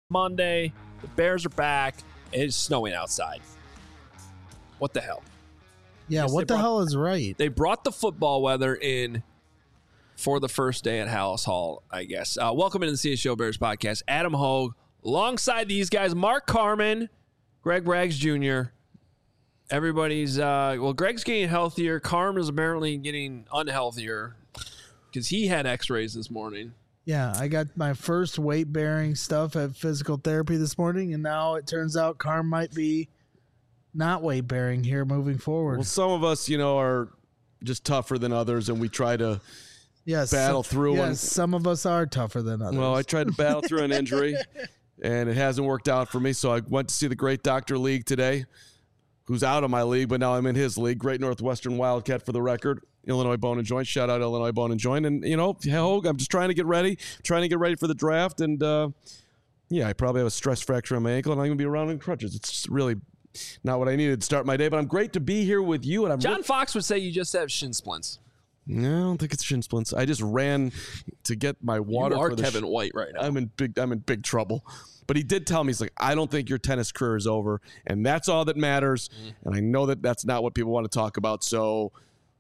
Monday, the Bears are back. It's snowing outside. What the hell? Yeah, what the hell is right? They brought the football weather in for the first day at Hallis Hall, I guess. Welcome into the CSO Bears podcast. Adam Hogue, alongside these guys, Mark Carman, Greg Braggs Jr. Everybody's, Greg's getting healthier. Carm is apparently getting unhealthier because he had x-rays this morning. Yeah, I got my first weight-bearing stuff at physical therapy this morning, and now it turns out Carm might be not weight-bearing here moving forward. Well, some of us, are just tougher than others, and we try to battle through. Yes, some of us are tougher than others. Well, I tried to battle through an injury, and it hasn't worked out for me, so I went to see the great Dr. League today, who's out of my league, but now I'm in his league. Great Northwestern Wildcat for the record. Illinois Bone and Joint. Shout out Illinois Bone and Joint. And, Hogue, I'm just trying to get ready for the draft. And, I probably have a stress fracture on my ankle, and I'm going to be around in crutches. It's just really not what I needed to start my day. But I'm great to be here with you. And John Fox would say you just have shin splints. No, I don't think it's shin splints. I just ran to get my water. You are Kevin White right now. I'm in big trouble. But he did tell me, he's like, I don't think your tennis career is over, and that's all that matters. And I know that that's not what people want to talk about. So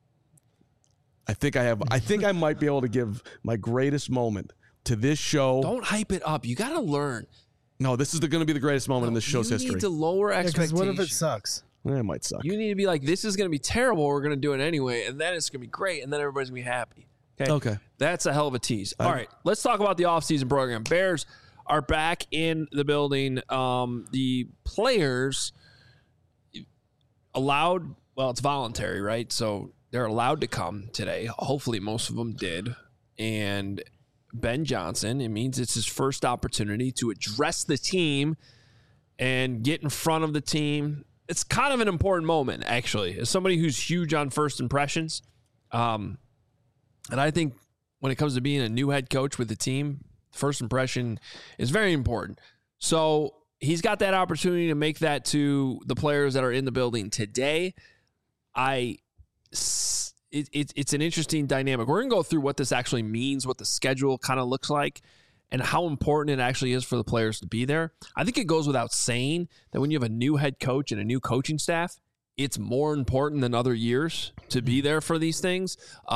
I think I might be able to give my greatest moment to this show. Don't hype it up. You got to learn. No, this is going to be the greatest moment in this show's history. You need to lower expectations. Because what if it sucks? It might suck. You need to be like, this is going to be terrible. We're going to do it anyway, and then it's going to be great, and then everybody's going to be happy. Okay. That's a hell of a tease. All right, let's talk about the offseason program. Bears are back in the building. The players allowed, it's voluntary, right? So they're allowed to come today. Hopefully most of them did. And Ben Johnson, it means it's his first opportunity to address the team and get in front of the team. It's kind of an important moment, actually, as somebody who's huge on first impressions. And I think when it comes to being a new head coach with the team, first impression is very important. So he's got that opportunity to make that to the players that are in the building today. It's an interesting dynamic. We're going to go through what this actually means, what the schedule kind of looks like, and how important it actually is for the players to be there. I think it goes without saying that when you have a new head coach and a new coaching staff, it's more important than other years to be there for these things.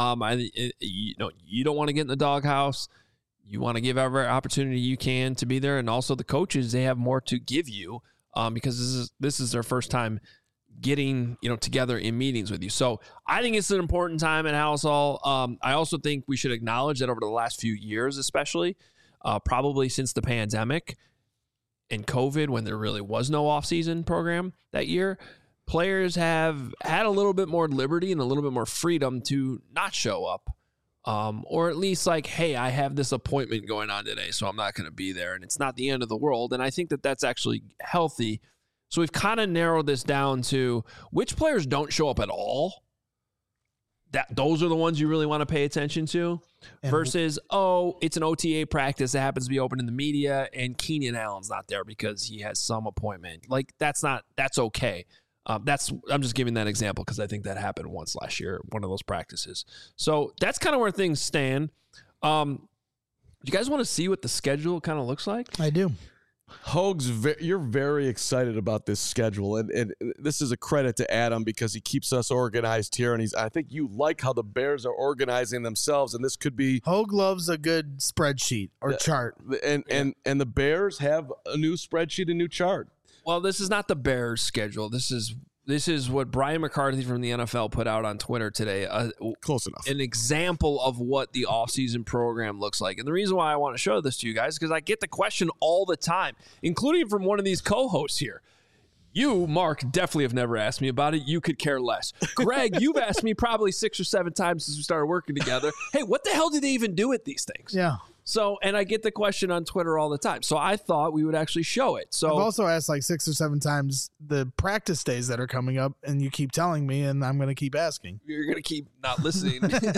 You don't want to get in the doghouse. You want to give every opportunity you can to be there. And also the coaches, they have more to give you because this is their first time getting together in meetings with you. So I think it's an important time at Hallis Hall. I also think we should acknowledge that over the last few years, especially probably since the pandemic and COVID, when there really was no offseason program that year, players have had a little bit more liberty and a little bit more freedom to not show up. Or at least like, hey, I have this appointment going on today, so I'm not going to be there. And it's not the end of the world. And I think that that's actually healthy. So we've kind of narrowed this down to which players don't show up at all. Those are the ones you really want to pay attention to versus, it's an OTA practice that happens to be open in the media and Keenan Allen's not there because he has some appointment. Like that's okay. I'm just giving that example because I think that happened once last year, one of those practices. So that's kind of where things stand. Do you guys want to see what the schedule kind of looks like? I do. Hogue's, you're very excited about this schedule, and this is a credit to Adam because he keeps us organized here, and I think you like how the Bears are organizing themselves, and this could be... Hogue loves a good spreadsheet or chart. And the Bears have a new spreadsheet, a new chart. Well, this is not the Bears' schedule. This is what Brian McCarthy from the NFL put out on Twitter today. Close enough. An example of what the offseason program looks like. And the reason why I want to show this to you guys is because I get the question all the time, including from one of these co-hosts here. You, Mark, definitely have never asked me about it. You could care less. Greg, you've asked me probably 6 or 7 times since we started working together. Hey, what the hell do they even do with these things? Yeah. So, and I get the question on Twitter all the time. So I thought we would actually show it. So I've also asked like 6 or 7 times the practice days that are coming up, and you keep telling me, and I'm going to keep asking. You're going to keep not listening.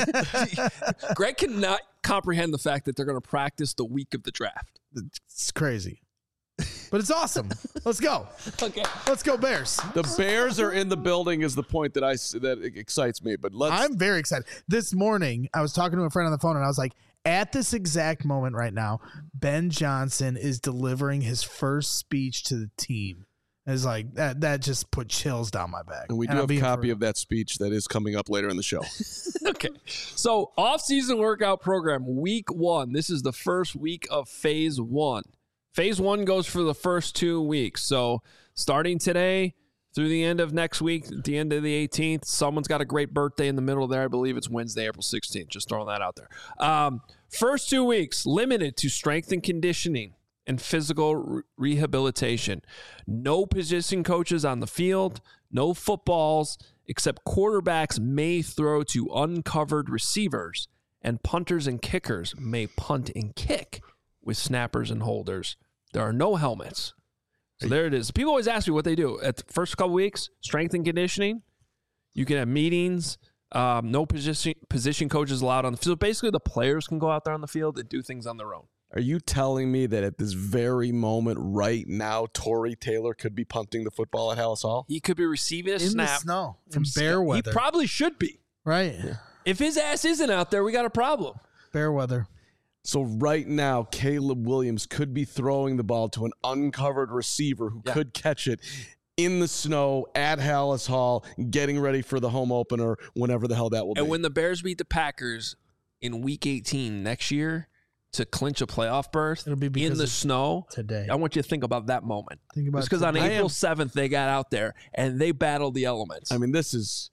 Greg cannot comprehend the fact that they're going to practice the week of the draft. It's crazy. But it's awesome. Let's go. Okay. Let's go Bears. The Bears are in the building is the point that excites me. But I'm very excited. This morning, I was talking to a friend on the phone, and I was like, At this exact moment right now, Ben Johnson is delivering his first speech to the team. It's like that just put chills down my back. And we do have a copy of that speech that is coming up later in the show. Okay. So off-season workout program, week 1. This is the first week of phase 1. Phase 1 goes for the first 2 weeks. So starting today through the end of next week, at the end of the 18th, someone's got a great birthday in the middle there. I believe it's Wednesday, April 16th. Just throwing that out there. First 2 weeks, limited to strength and conditioning and physical rehabilitation. No position coaches on the field, no footballs, except quarterbacks may throw to uncovered receivers, and punters and kickers may punt and kick with snappers and holders. There are no helmets. So there it is. People always ask me what they do. At the first couple weeks, strength and conditioning. You can have meetings. No position coaches allowed on the field. Basically, the players can go out there on the field and do things on their own. Are you telling me that at this very moment right now, Tory Taylor could be punting the football at Hallis Hall? He could be receiving a in snap the snow from bear weather. He probably should be. Right. Yeah. If his ass isn't out there, we got a problem. Bear weather. So right now, Caleb Williams could be throwing the ball to an uncovered receiver who could catch it in the snow at Hallis Hall, getting ready for the home opener, whenever the hell that will be. And when the Bears beat the Packers in Week 18 next year to clinch a playoff berth It'll be in the snow, today. I want you to think about that moment. Think about because on April 7th, they got out there and they battled the elements. I mean,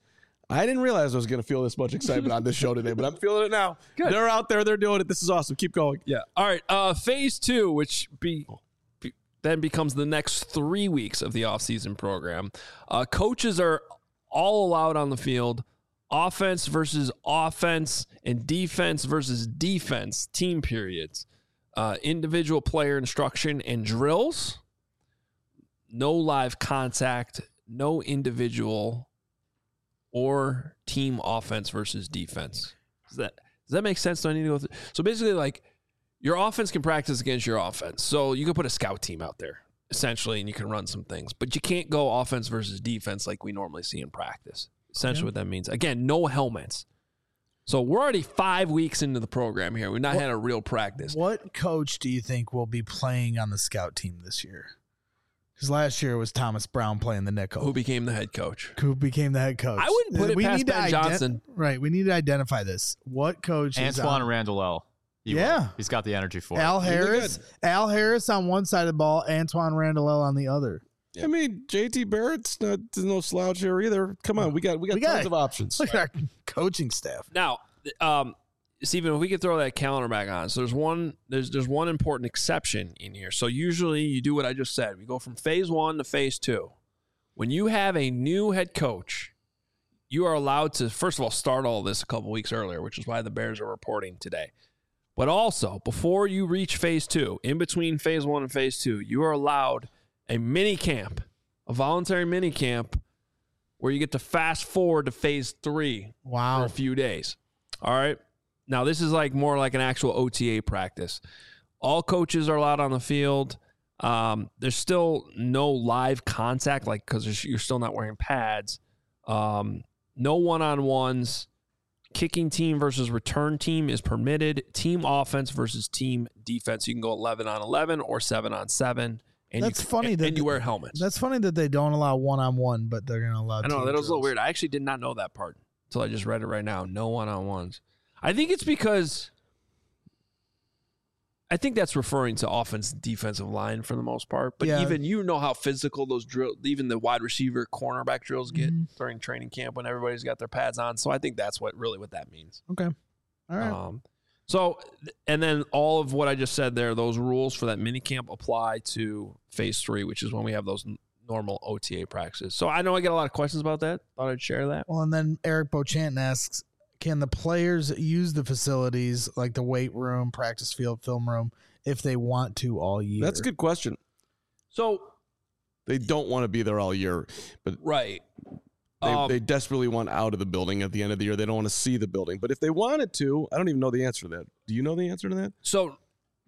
I didn't realize I was going to feel this much excitement on this show today, but I'm feeling it now. Good. They're out there. They're doing it. This is awesome. Keep going. Yeah. All right. Phase 2, which then becomes the next 3 weeks of the offseason program. Coaches are all allowed on the field. Offense versus offense and defense versus defense team periods. Individual player instruction and drills. No live contact. No individual or team offense versus defense. Does that make sense? Do I need to go through? So basically, like, your offense can practice against your offense. So you can put a scout team out there, essentially, and you can run some things. But you can't go offense versus defense like we normally see in practice. Essentially what that means. Again, no helmets. So we're already 5 weeks into the program here. We've not had a real practice. What coach do you think will be playing on the scout team this year? Because last year it was Thomas Brown playing the nickel. Who became the head coach? Who became the head coach? I wouldn't put it past Ben Johnson. Right. We need to identify this. What coach is Antoine Randall L. He's got the energy for Al it. Harris. Al Harris on one side of the ball, Antoine Randall L on the other. I mean, JT Barrett's no slouch here either. Come on, we got tons of options. Look at our coaching staff. Now, Stephen, if we could throw that calendar back on. So there's one important exception in here. So usually you do what I just said. We go from phase 1 to phase 2. When you have a new head coach, you are allowed to, first of all, start all this a couple weeks earlier, which is why the Bears are reporting today. But also, before you reach phase 2, in between phase 1 and phase 2, you are allowed a mini camp, a voluntary mini camp, where you get to fast forward to phase 3 for a few days. All right. Now, this is more like an actual OTA practice. All coaches are allowed on the field. There's still no live contact, because you're still not wearing pads. No one-on-ones. Kicking team versus return team is permitted. Team offense versus team defense. You can go 11-on-11 or 7-on-7. And that's funny. And you wear helmets. That's funny that they don't allow one-on-one, but they're going to allow. I know that was a little weird. I actually did not know that part until I just read it right now. No one-on-ones. I think it's because I think that's referring to offense and defensive line for the most part. But even how physical those drills, even the wide receiver, cornerback drills get during training camp when everybody's got their pads on. So I think that's what that means. Okay. All right. So, and then all of what I just said there, those rules for that mini camp apply to phase 3, which is when we have those normal OTA practices. So I know I get a lot of questions about that. Thought I'd share that. Well, and then Eric Beauchamp asks, can the players use the facilities like the weight room, practice field, film room if they want to all year? That's a good question. So they don't want to be there all year, but right. They desperately want out of the building at the end of the year. They don't want to see the building. But if they wanted to, I don't even know the answer to that. Do you know the answer to that? So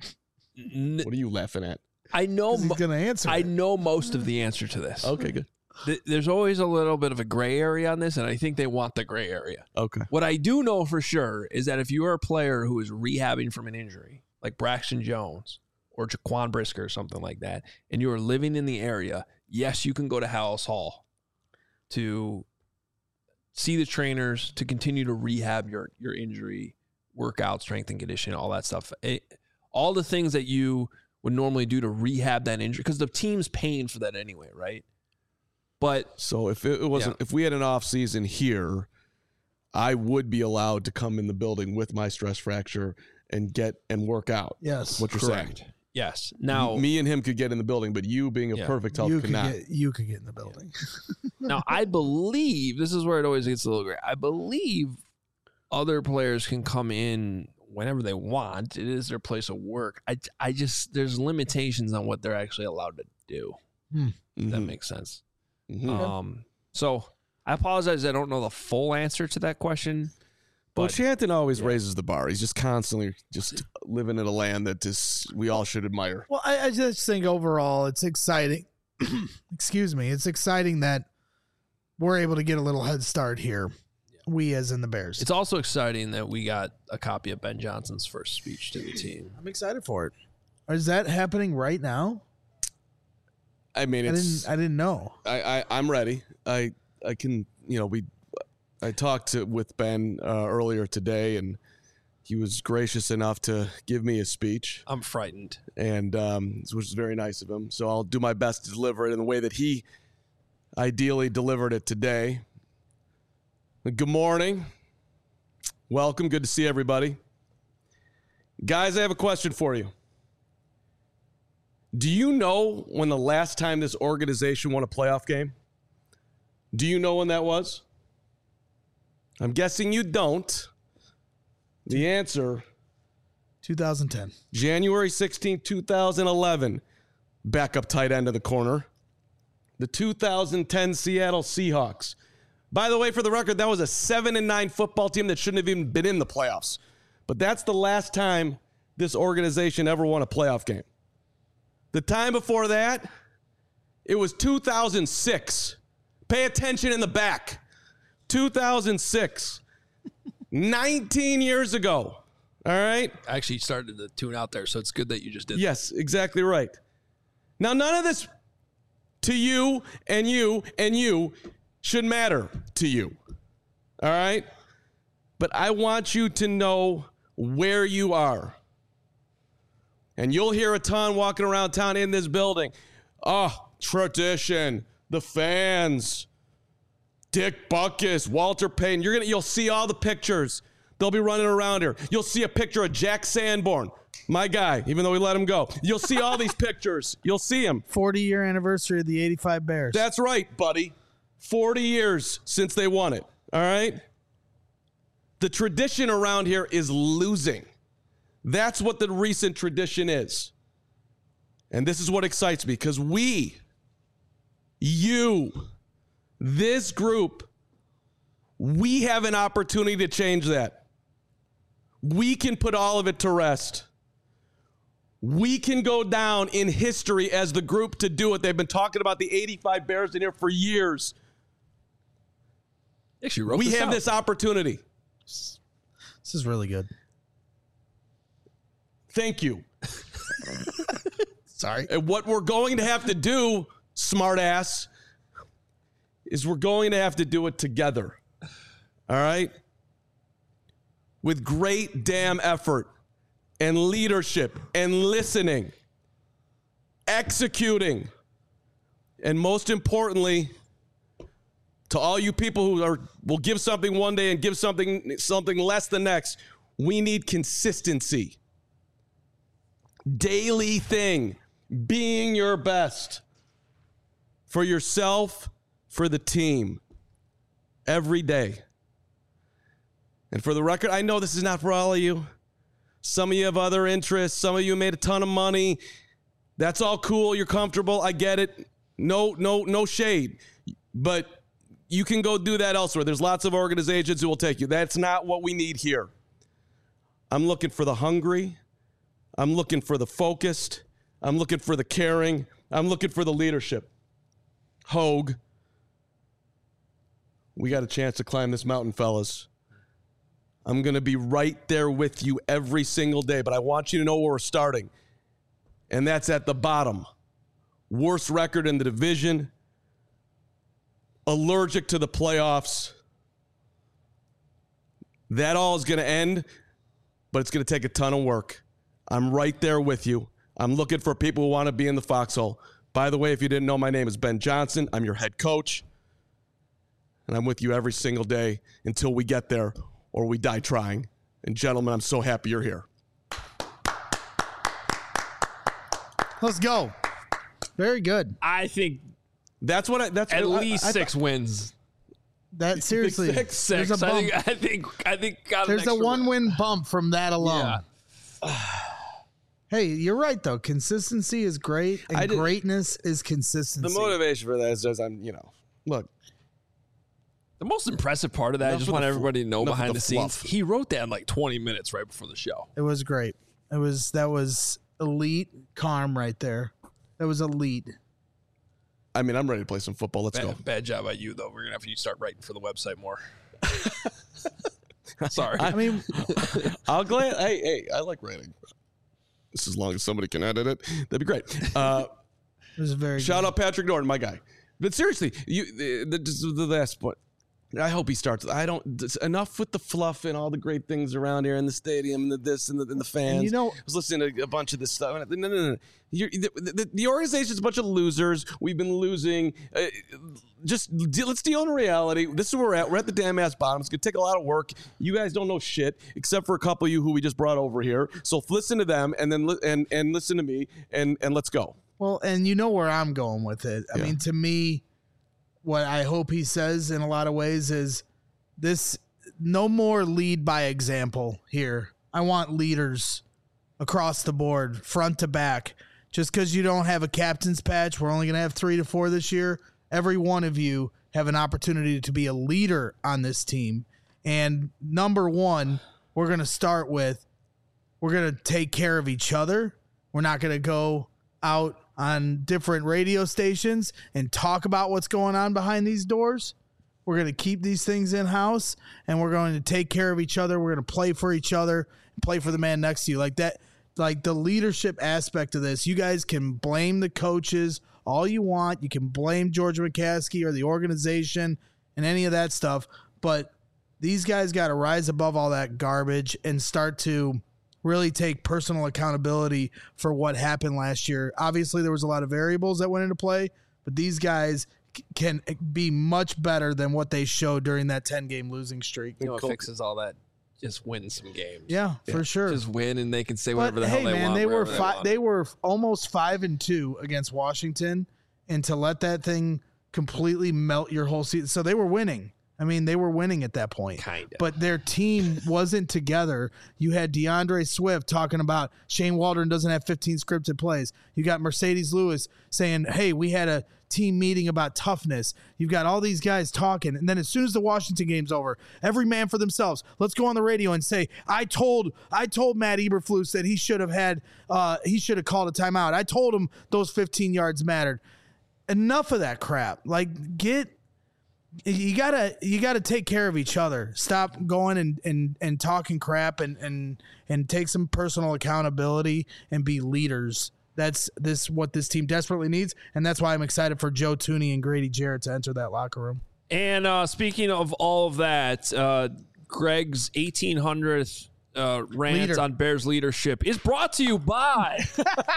what are you laughing at? I know he's going to answer. I know most of the answer to this. Okay, good. there's always a little bit of a gray area on this, and I think they want the gray area. Okay. What I do know for sure is that if you are a player who is rehabbing from an injury, like Braxton Jones or Jaquan Brisker or something like that, and you are living in the area, yes, you can go to Hallis Hall to see the trainers, to continue to rehab your injury, work out, strength and conditioning, all that stuff. All the things that you would normally do to rehab that injury, because the team's paying for that anyway, right? But so if it wasn't, if we had an off season here, I would be allowed to come in the building with my stress fracture and work out. Yes, what you're correct. saying. Yes. Now, me and him could get in the building, but you being a perfect health could not. You could get in the building. Now, I believe this is where it always gets a little gray. I believe other players can come in whenever they want. It is their place of work. I just, there's limitations on what they're actually allowed to do. If that makes sense. So I apologize. I don't know the full answer to that question. But Shanton always raises the bar. He's just constantly just living in a land that we all should admire. Well, I just think overall it's exciting. Excuse me. It's exciting that we're able to get a little head start here. We as in the Bears. It's also exciting that we got a copy of Ben Johnson's first speech to the team. I'm excited for it. Is that happening right now? I mean, I didn't know. I'm ready. I can, I talked with Ben earlier today, and he was gracious enough to give me a speech. I'm frightened. And which is very nice of him. So I'll do my best to deliver it in the way that he ideally delivered it today. Good morning. Welcome. Good to see everybody. Guys, I have a question for you. Do you know when the last time this organization won a playoff game? Do you know when that was? I'm guessing you don't. The answer, 2010. January 16, 2011. Backup tight end of the corner. The 2010 Seattle Seahawks. By the way, for the record, that was a 7-9 football team that shouldn't have even been in the playoffs. But that's the last time this organization ever won a playoff game. The time before that, it was 2006. Pay attention in the back. 2006. 19 years ago. All right? I actually started to tune out there, so it's good that you just did Yes, exactly right. Now, none of this to you and you and you should matter to you. All right? But I want you to know where you are. And you'll hear a ton walking around town in this building. Oh, tradition, the fans, Dick Butkus, Walter Payton. You'll see all the pictures. They'll be running around here. You'll see a picture of Jack Sanborn, my guy, even though we let him go. You'll see all these pictures. You'll see him. 40-year anniversary of the 85 Bears. That's right, buddy. 40 years since they won it. All right? The tradition around here is losing. That's what the recent tradition is. And this is what excites me, because this group, we have an opportunity to change that. We can put all of it to rest. We can go down in history as the group to do it. They've been talking about the 85 Bears in here for years. We have this opportunity. This is really good. Thank you. Sorry. And what we're going to have to do, smartass, is we're going to have to do it together. All right? With great damn effort and leadership and listening, executing, and most importantly, to all you people who will give something one day and give something less the next, we need consistency. Daily thing, being your best for yourself, for the team, every day. And for the record, I know this is not for all of you. Some of you have other interests. Some of you made a ton of money. That's all cool. You're comfortable. I get it. No shade. But you can go do that elsewhere. There's lots of organizations who will take you. That's not what we need here. I'm looking for the hungry. I'm looking for the focused. I'm looking for the caring. I'm looking for the leadership. Hogue, we got a chance to climb this mountain, fellas. I'm going to be right there with you every single day, but I want you to know where we're starting. And that's at the bottom. Worst record in the division. Allergic to the playoffs. That all is going to end, but it's going to take a ton of work. I'm right there with you. I'm looking for people who want to be in the foxhole. By the way, if you didn't know, my name is Ben Johnson. I'm your head coach. And I'm with you every single day until we get there or we die trying. And gentlemen, I'm so happy you're here. Let's go. Very good. I think that's at least 6 wins. That seriously, six. There's a bump. I think there's a 1-win bump from that alone. Yeah. Hey, you're right though. Consistency is great, and greatness is consistency. The motivation for that is just look. The most impressive part of that, I just want everybody to know behind the scenes, he wrote that in like 20 minutes right before the show. It was great. That was elite calm right there. That was elite. I mean, I'm ready to play some football. Let's go. Bad job by you, though. We're going to have you start writing for the website more. Sorry. I'll glad. Hey, I like writing. Just as long as somebody can edit it, that'd be great. It was very shout out Patrick Norton, my guy. But seriously, the last point. I hope he starts. Enough with the fluff and all the great things around here in the stadium and the this and the fans. And I was listening to a bunch of this stuff. No. The organization's a bunch of losers. We've been losing. Let's deal in reality. This is where we're at. We're at the damn ass bottom. It's going to take a lot of work. You guys don't know shit, except for a couple of you who we just brought over here. So listen to them and then and listen to me and let's go. Well, and you know where I'm going with it. I mean, to me, what I hope he says in a lot of ways is this: no more lead by example here. I want leaders across the board, front to back. Just because you don't have a captain's patch, we're only going to have 3 to 4 this year. Every one of you have an opportunity to be a leader on this team. And number one, we're going to start with, we're going to take care of each other. We're not going to go out on different radio stations and talk about what's going on behind these doors. We're going to keep these things in-house, and we're going to take care of each other. We're going to play for each other and play for the man next to you. Like that, like the leadership aspect of this, you guys can blame the coaches all you want. You can blame George McCaskey or the organization and any of that stuff, but these guys got to rise above all that garbage and start to really take personal accountability for what happened last year. Obviously, there was a lot of variables that went into play, but these guys can be much better than what they showed during that 10-game losing streak. You know what fixes all that? Just win some games. Yeah, for sure. Just win, and they can say whatever the hell they want. They were almost 5-2 against Washington, and to let that thing completely melt your whole season. So they were winning. I mean, they were winning at that point. Kind of. But their team wasn't together. You had DeAndre Swift talking about Shane Waldron doesn't have 15 scripted plays. You got Mercedes Lewis saying, hey, we had a team meeting about toughness. You've got all these guys talking. And then as soon as the Washington game's over, every man for themselves. Let's go on the radio and say, I told Matt Eberflus that he should have called a timeout. I told him those 15 yards mattered. Enough of that crap. Like, you gotta take care of each other. Stop going and talking crap and take some personal accountability and be leaders. That's what this team desperately needs, and that's why I'm excited for Joe Thuney and Grady Jarrett to enter that locker room. And speaking of all of that, Greg's 1800th rant on Bears leadership is brought to you by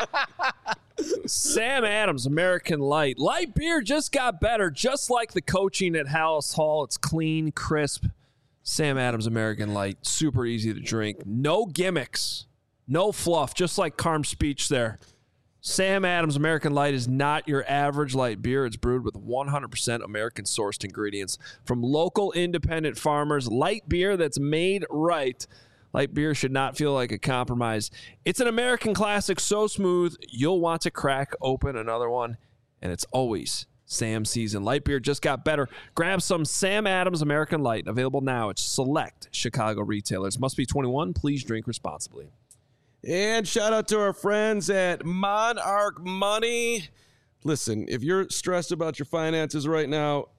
Sam Adams American Light. Light beer just got better, just like the coaching at Hallis Hall. It's clean, crisp. Sam Adams American Light, super easy to drink. No gimmicks, no fluff, just like Carm's speech there. Sam Adams American Light is not your average light beer. It's brewed with 100% American-sourced ingredients from local independent farmers. Light beer that's made right. Light beer should not feel like a compromise. It's an American classic so smooth, you'll want to crack open another one, and it's always Sam season. Light beer just got better. Grab some Sam Adams American Light, available now at select Chicago retailers. Must be 21. Please drink responsibly. And shout out to our friends at Monarch Money. Listen, if you're stressed about your finances right now,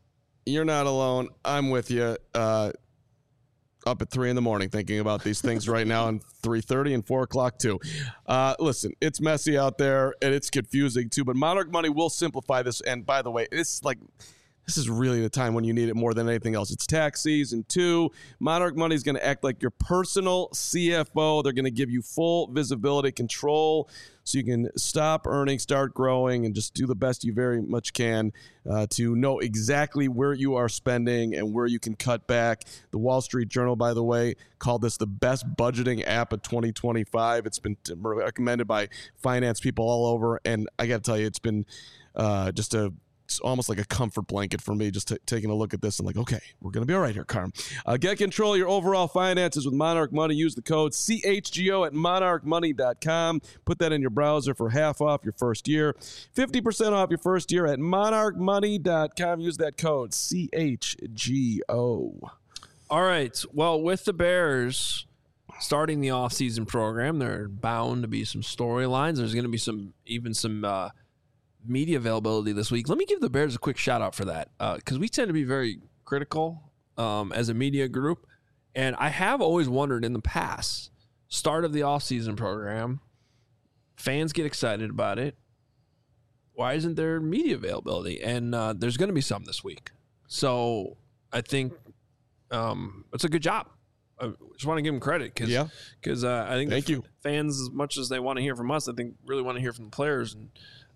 you're not alone. I'm with you. Up at 3 a.m. thinking about these things right now, and 3:30 and 4 o'clock too. Listen, it's messy out there and it's confusing too, but Monarch Money will simplify this. And by the way, this is really the time when you need it more than anything else. It's tax season too. Monarch Money is going to act like your personal CFO. They're going to give you full visibility control so you can stop earning, start growing, and just do the best you very much can to know exactly where you are spending and where you can cut back. The Wall Street Journal, by the way, called this the best budgeting app of 2025. It's been recommended by finance people all over, and I got to tell you, it's been it's almost like a comfort blanket for me, just taking a look at this and like, okay, we're going to be all right here, Carm. Get control of your overall finances with Monarch Money. Use the code CHGO at monarchmoney.com. Put that in your browser for half off your first year. 50% off your first year at monarchmoney.com. Use that code CHGO. All right. Well, with the Bears starting the offseason program, there are bound to be some storylines. There's going to be some media availability this week. Let me give the Bears a quick shout out for that, because we tend to be very critical as a media group, and I have always wondered in the past, start of the offseason program, fans get excited about it, why isn't there media availability? And there's going to be some this week, so I think it's a good job. I just want to give them credit because I think Thank you. fans, as much as they want to hear from us, I think really want to hear from the players and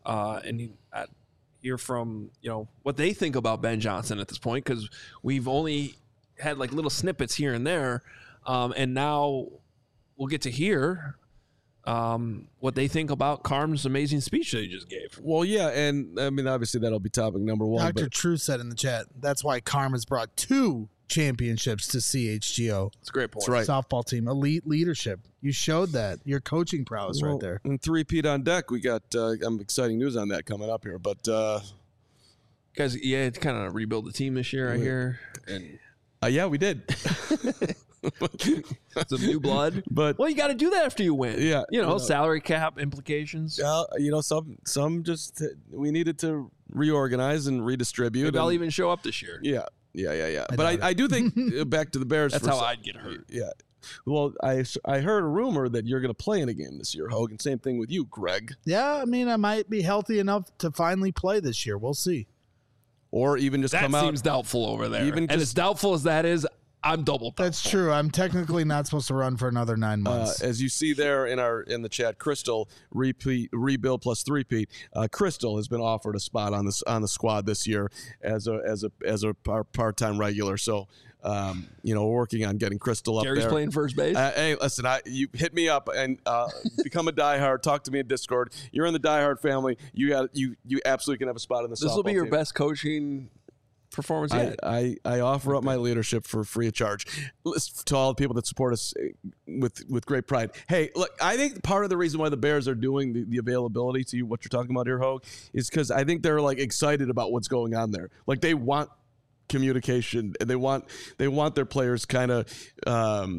hear from what they think about Ben Johnson at this point, because we've only had like little snippets here and there, and now we'll get to hear what they think about Carm's amazing speech that he just gave. Well, yeah, and I mean obviously that'll be topic number one. Dr. True said in the chat that's why Carm has brought 2 championships to CHGO. That's a great point. That's right. Softball team, elite leadership. You showed that. Your coaching prowess right there. And 3-peat on deck. We got exciting news on that coming up here. But guys, it's kind of rebuild the team this year, I hear. And yeah, we did. Some new blood. But well, you got to do that after you win. Yeah. Salary cap implications. Some just we needed to reorganize and redistribute. Maybe I'll even show up this year. Yeah. But I do think back to the Bears. That's how I'd get hurt. Yeah. Well, I heard a rumor that you're going to play in a game this year, Hogan. Same thing with you, Greg. Yeah, I mean, I might be healthy enough to finally play this year. We'll see. Or even just come out. That seems doubtful over there. And as doubtful as that is, I'm double doubtful. That's true. I'm technically not supposed to run for another 9 months. As you see there in the chat, Crystal rebuild plus 3-peat. Crystal has been offered a spot on the squad this year as a part-time regular. So working on getting Crystal up there. Gary's playing first base. Hey, listen, you hit me up and become a diehard. Talk to me in Discord. You're in the diehard family. You absolutely can have a spot in the. This will be your team. best coaching performance yet. I offer up my leadership for free of charge to all the people that support us with great pride. Hey, look, I think part of the reason why the Bears are doing the availability to you, what you're talking about here, Hogue, is because I think they're like excited about what's going on there. Like they want communication and they want their players kind of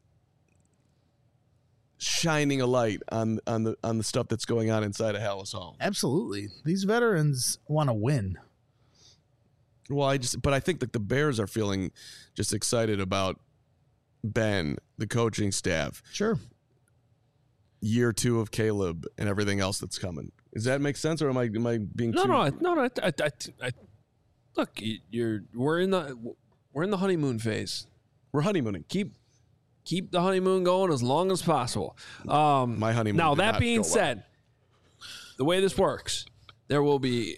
shining a light on the stuff that's going on inside of Halas Hall. Absolutely. These veterans want to win. Well, I think that the Bears are feeling just excited about Ben, the coaching staff. Sure. Year 2 of Caleb and everything else that's coming. Does that make sense, or am I being no? too... No. Look, we're in the honeymoon phase. We're honeymooning. Keep the honeymoon going as long as possible. My honeymoon. Now that being said, the way this works, there will be.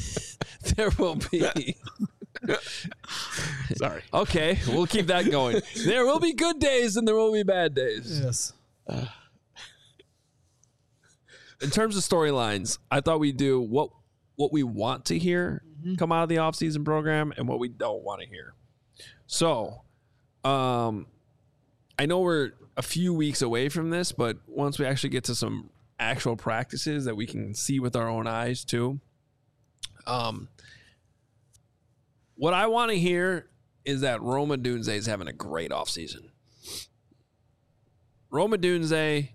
Sorry. Okay, we'll keep that going. There will be good days and there will be bad days. Yes. In terms of storylines, I thought we'd do what we want to hear come out of the offseason program and what we don't want to hear. So, I know we're a few weeks away from this, but once we actually get to some actual practices that we can see with our own eyes too, what I want to hear is that Rome Odunze is having a great offseason. Rome Odunze,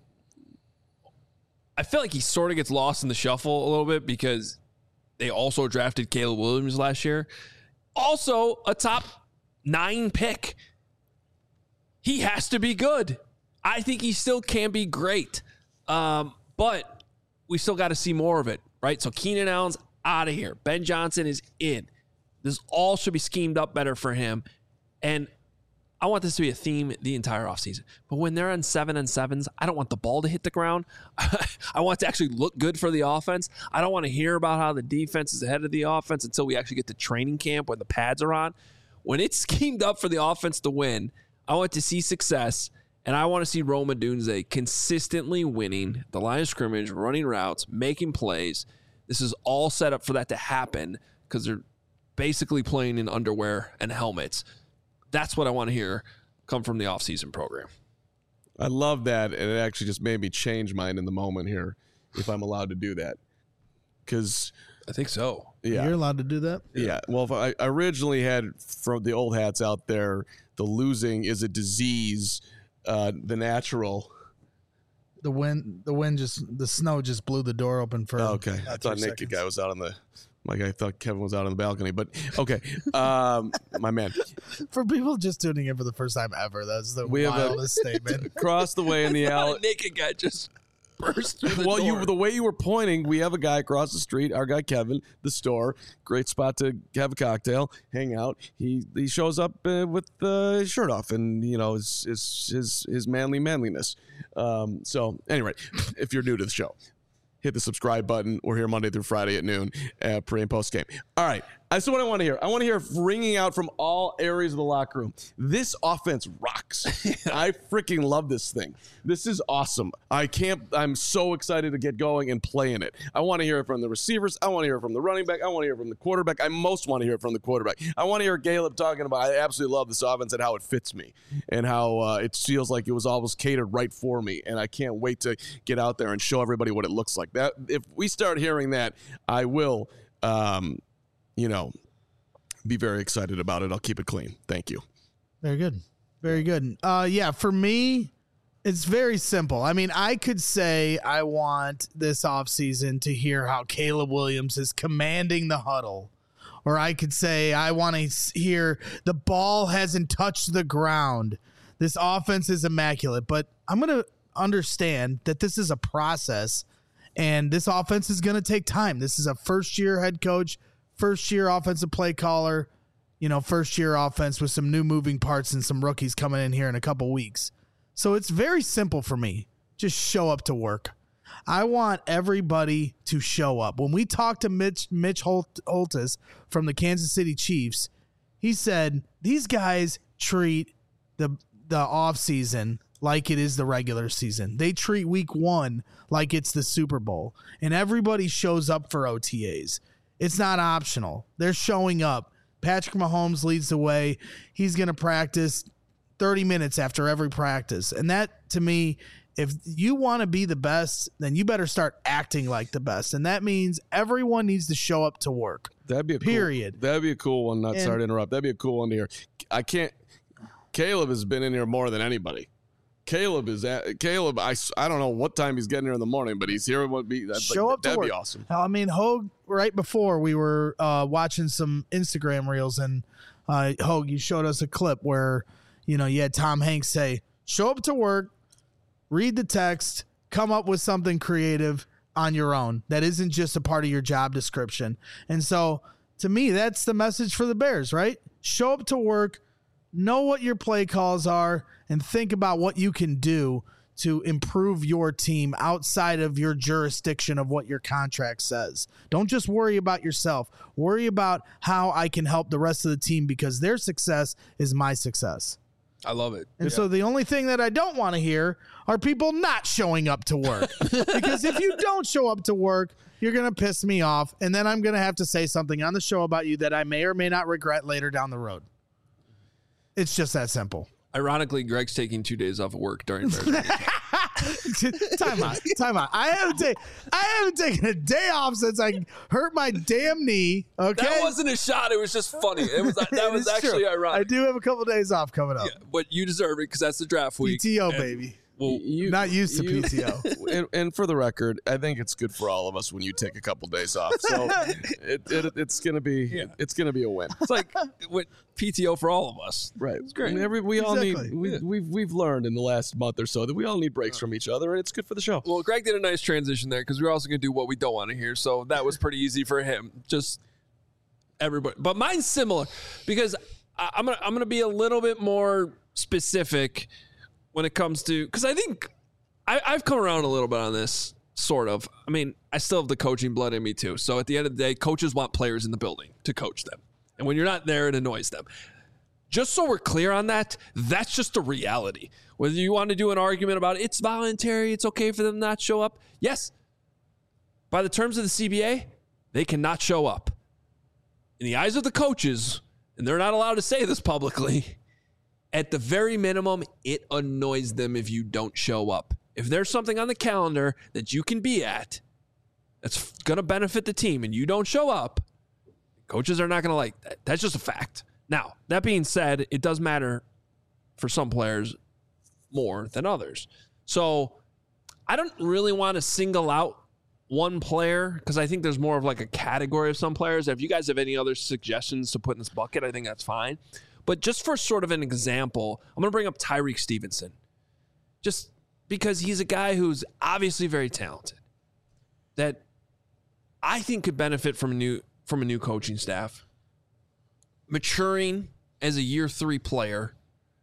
I feel like he sort of gets lost in the shuffle a little bit because they also drafted Caleb Williams last year. Also a top 9 pick. He has to be good. I think he still can be great. But we still got to see more of it, right? So Keenan Allen's out of here. Ben Johnson is in. This all should be schemed up better for him. And I want this to be a theme the entire offseason. But when they're on 7-on-7s, I don't want the ball to hit the ground. I want it to actually look good for the offense. I don't want to hear about how the defense is ahead of the offense until we actually get to training camp when the pads are on. When it's schemed up for the offense to win, I want to see success, and I want to see Rome Odunze consistently winning the line of scrimmage, running routes, making plays. This is all set up for that to happen because they're basically playing in underwear and helmets. That's what I want to hear come from the offseason program. I love that, and it actually just made me change mine in the moment here, if I'm allowed to do that. Because I think so. Yeah. You're allowed to do that? Yeah. Well, if I originally had from the old hats out there, the losing is a disease, the natural. The snow just blew the door open for. Okay. I thought Naked Guy was out on the. Like I thought Kevin was out on the balcony, but okay, my man. For people just tuning in for the first time ever, that's the wildest statement. Across the way in the alley, Naked Guy just burst through the door. The way you were pointing, we have a guy across the street. Our guy Kevin, the store, great spot to have a cocktail, hang out. He shows up with his shirt off, and his manliness. So anyway, if you're new to the show, hit the subscribe button. We're here Monday through Friday at noon, pre and post game. All right. That's what I want to hear. I want to hear ringing out from all areas of the locker room. This offense rocks. I freaking love this thing. This is awesome. I'm so excited to get going and play in it. I want to hear it from the receivers. I want to hear it from the running back. I want to hear it from the quarterback. I most want to hear it from the quarterback. I want to hear Caleb talking about, I absolutely love this offense and how it fits me and how it feels like it was almost catered right for me. And I can't wait to get out there and show everybody what it looks like. That if we start hearing that, I will be very excited about it. I'll keep it clean. Thank you. Very good. Very good. For me, it's very simple. I mean, I could say I want this offseason to hear how Caleb Williams is commanding the huddle. Or I could say I want to hear the ball hasn't touched the ground. This offense is immaculate. But I'm going to understand that this is a process, and this offense is going to take time. This is a first-year head coach, first-year offensive play caller, first-year offense with some new moving parts and some rookies coming in here in a couple weeks. So it's very simple for me. Just show up to work. I want everybody to show up. When we talked to Mitch Holthus from the Kansas City Chiefs, he said these guys treat the offseason like it is the regular season. They treat week 1 like it's the Super Bowl, and everybody shows up for OTAs. It's not optional. They're showing up. Patrick Mahomes leads the way. He's going to practice 30 minutes after every practice. And that, to me, if you want to be the best, then you better start acting like the best. And that means everyone needs to show up to work. That'd be that'd be a cool one. Sorry to interrupt. That'd be a cool one to hear. Caleb has been in here more than anybody. Caleb, I don't know what time he's getting here in the morning, but he's here. Show up to work. That'd be awesome. I mean, Hogue, right before we were watching some Instagram reels, and Hogue, you showed us a clip where, you had Tom Hanks say, show up to work, read the text, come up with something creative on your own that isn't just a part of your job description. And so, to me, that's the message for the Bears, right? Show up to work, know what your play calls are, and think about what you can do to improve your team outside of your jurisdiction of what your contract says. Don't just worry about yourself. Worry about how I can help the rest of the team, because their success is my success. I love it. And so the only thing that I don't want to hear are people not showing up to work. Because if you don't show up to work, you're going to piss me off, and then I'm going to have to say something on the show about you that I may or may not regret later down the road. It's just that simple. Ironically, Greg's taking 2 days off of work during Bears. Time out. I haven't taken a day off since I hurt my damn knee. Okay, that wasn't a shot. It was just funny. That was actually true. ironic. I do have a couple days off coming up. Yeah, but you deserve it because that's the draft week. PTO, baby. Well, not used to PTO. And for the record, I think it's good for all of us when you take a couple days off. So it's gonna be a win. It's like with PTO for all of us. Right. It's great. I mean, we all need. We've learned in the last month or so that we all need breaks from each other, and it's good for the show. Well, Greg did a nice transition there because we're also going to do what we don't want to hear. So that was pretty easy for him. Just everybody, but mine's similar because I'm gonna be a little bit more specific when it comes to, because I think I've come around a little bit on this, sort of. I mean, I still have the coaching blood in me too. So at the end of the day, coaches want players in the building to coach them. And when you're not there, it annoys them. Just so we're clear on that, that's just a reality. Whether you want to do an argument about it's voluntary, it's okay for them to not show up. Yes, by the terms of the CBA, they cannot show up. In the eyes of the coaches, and they're not allowed to say this publicly, at the very minimum, it annoys them if you don't show up. If there's something on the calendar that you can be at that's going to benefit the team and you don't show up, coaches are not going to like that. That's just a fact. Now, that being said, it does matter for some players more than others. So I don't really want to single out one player because I think there's more of like a category of some players. If you guys have any other suggestions to put in this bucket, I think that's fine. But just for sort of an example, I'm going to bring up Tyreek Stevenson. Just because he's a guy who's obviously very talented that I think could benefit from a new coaching staff, maturing as a year 3 player,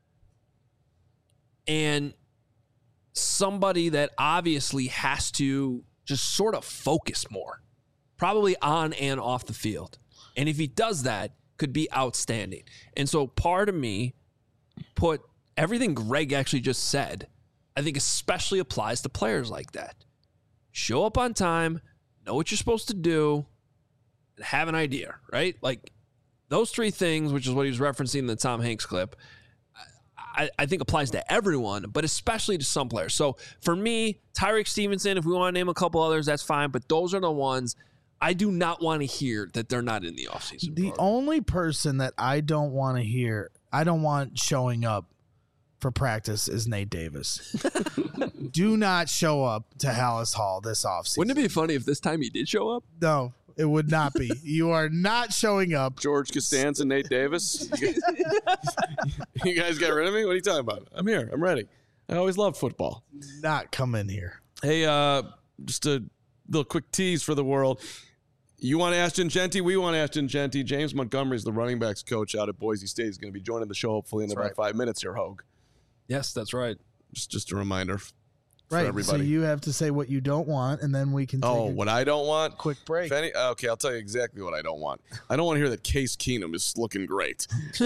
and somebody that obviously has to just sort of focus more, probably on and off the field. And if he does that, could be outstanding. And so part of me put everything Greg actually just said, I think especially applies to players like that. Show up on time, know what you're supposed to do, and have an idea, right? Like those 3 things, which is what he was referencing in the Tom Hanks clip, I think applies to everyone, but especially to some players. So for me, Tyreek Stevenson, if we want to name a couple others, that's fine. But those are the ones I do not want to hear that they're not in the offseason. The only person that I don't want to hear, I don't want showing up for practice is Nate Davis. Do not show up to Hallis Hall this offseason. Wouldn't it be funny if this time he did show up? No, it would not be. You are not showing up. George Costanza, Nate Davis. You guys got rid of me? What are you talking about? I'm here. I'm ready. I always loved football. Not come in here. Hey, just a little quick tease for the world. You want Ashton Genty? We want Ashton Genty. James Montgomery is the running backs coach out at Boise State. He's going to be joining the show hopefully in about 5 minutes here, Hogue. Yes, that's right. Just a reminder for everybody. So you have to say what you don't want, and then we can take what I don't want? Quick break. Okay, I'll tell you exactly what I don't want. I don't want to hear that Case Keenum is looking great.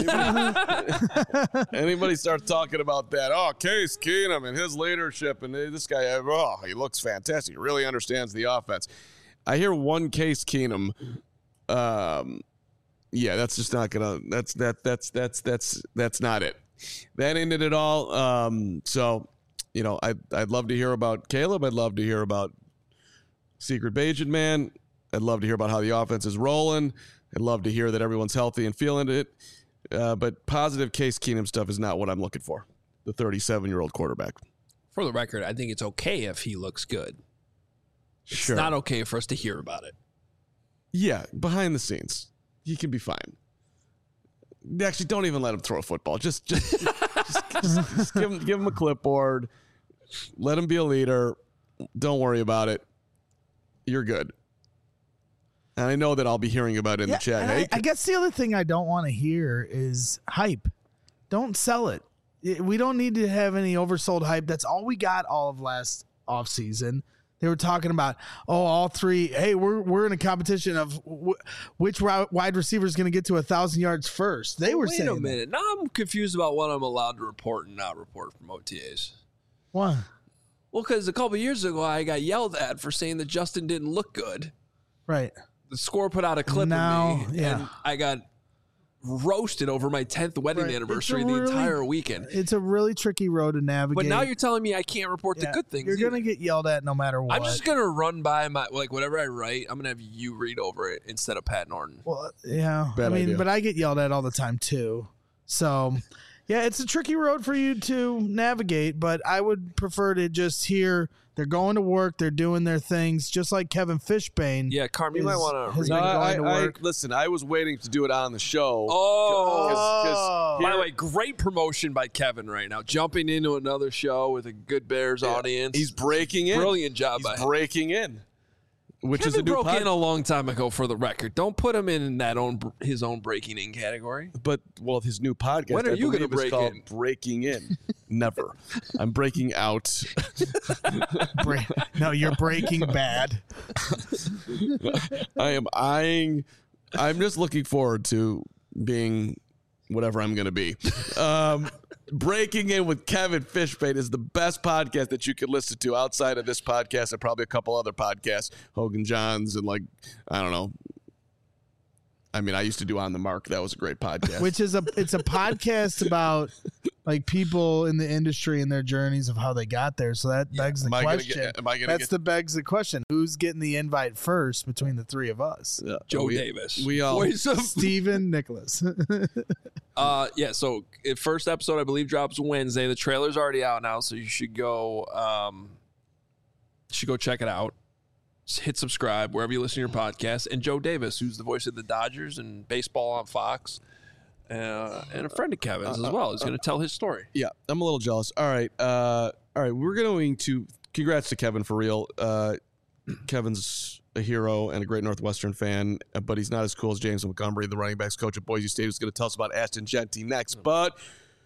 Anybody starts talking about that, Case Keenum and his leadership, and this guy, he looks fantastic. He really understands the offense. I hear one Case Keenum. That's just not gonna. That's not it. That ain't it at all. So, I'd love to hear about Caleb. I'd love to hear about Secret Bajan Man. I'd love to hear about how the offense is rolling. I'd love to hear that everyone's healthy and feeling it. But positive Case Keenum stuff is not what I'm looking for. The 37-year-old quarterback. For the record, I think it's okay if he looks good. Sure. It's not okay for us to hear about it. Yeah, behind the scenes, he can be fine. Actually, don't even let him throw a football. Just give him a clipboard. Let him be a leader. Don't worry about it. You're good. And I know that I'll be hearing about it in the chat. Hey, I guess the other thing I don't want to hear is hype. Don't sell it. We don't need to have any oversold hype. That's all we got all of last offseason. They were talking about, all 3. Hey, we're in a competition of which wide receiver is going to get to 1,000 yards first. They were saying. Wait a minute. Now I'm confused about what I'm allowed to report and not report from OTAs. Why? Well, because a couple of years ago I got yelled at for saying that Justin didn't look good. Right. The Score put out a clip of me, and I got roasted over my 10th wedding anniversary the entire weekend. It's a really tricky road to navigate. But now you're telling me I can't report the good things. You're going to get yelled at no matter what. I'm just going to run by my, whatever I write, I'm going to have you read over it instead of Pat Norton. Well, yeah. Bad idea. But I get yelled at all the time too. So, Yeah, it's a tricky road for you to navigate, but I would prefer to just hear they're going to work, they're doing their things, just like Kevin Fishbane. Yeah, Carm, you might want to. Listen, I was waiting to do it on the show. By the way, great promotion by Kevin right now, jumping into another show with a good Bears audience. He's breaking in. Brilliant job by him. Breaking in. Which Kevin is a new broke in a long time ago, for the record. Don't put him in that his own breaking in category. But his new podcast. When are you going to break in? Breaking in. Never. I'm breaking out. No, you're breaking bad. I'm just looking forward to being whatever I'm going to be. Breaking in with Kevin Fishbane is the best podcast that you could listen to outside of this podcast and probably a couple other podcasts, Hogan Johns and I don't know. I mean, I used to do On the Mark. That was a great podcast. Which is it's a podcast about people in the industry and their journeys of how they got there. So that begs the question. Begs the question. Who's getting the invite first between the three of us? Yeah. Joe Davis. We all. Stephen Nicholas. So first episode, I believe, drops Wednesday. The trailer's already out now, so you should go check it out. Just hit subscribe wherever you listen to your podcast. And Joe Davis, who's the voice of the Dodgers and baseball on Fox, and a friend of Kevin's as well, is going to tell his story. Yeah, I'm a little jealous. All right. We're going to congrats to Kevin for real. Kevin's a hero and a great Northwestern fan, but he's not as cool as James Montgomery, the running backs coach at Boise State, who's going to tell us about Ashton Jeanty next. But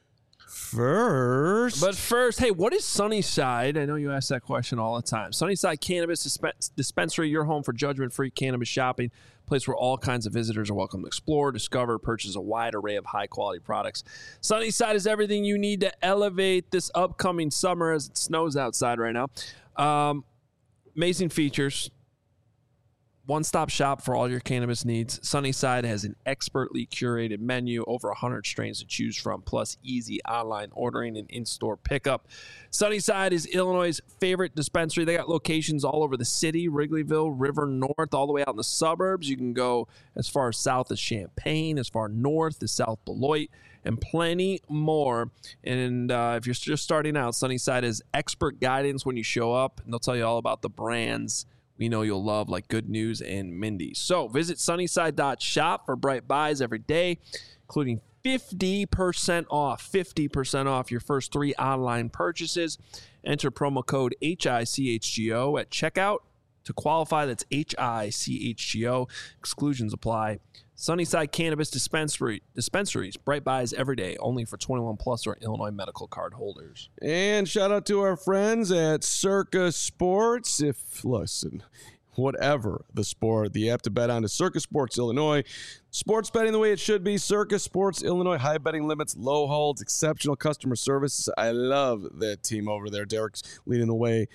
first, hey, what is Sunnyside? I know you ask that question all the time. Sunnyside Cannabis Dispensary, your home for judgment-free cannabis shopping, place where all kinds of visitors are welcome to explore, discover, purchase a wide array of high-quality products. Sunnyside is everything you need to elevate this upcoming summer as it snows outside right now. Amazing features. One-stop shop for all your cannabis needs. Sunnyside has an expertly curated menu, over 100 strains to choose from, plus easy online ordering and in-store pickup. Sunnyside is Illinois' favorite dispensary. They got locations all over the city, Wrigleyville, River North, all the way out in the suburbs. You can go as far south as Champaign, as far north as South Beloit, and plenty more. And if you're just starting out, Sunnyside has expert guidance when you show up, and they'll tell you all about the brands we know you'll love, like Good News and Mindy's. So visit sunnyside.shop for bright buys every day, including 50% off your first 3 online purchases. Enter promo code HICHGO at checkout to qualify. That's HICHGO. Exclusions apply. Sunnyside Cannabis Dispensaries, bright buys every day, only for 21 plus or Illinois medical card holders. And shout out to our friends at Circa Sports. Whatever the sport, the app to bet on is Circa Sports Illinois. Sports betting the way it should be. Circa Sports Illinois. High betting limits, low holds, exceptional customer service. I love that team over there. Derek's leading the way.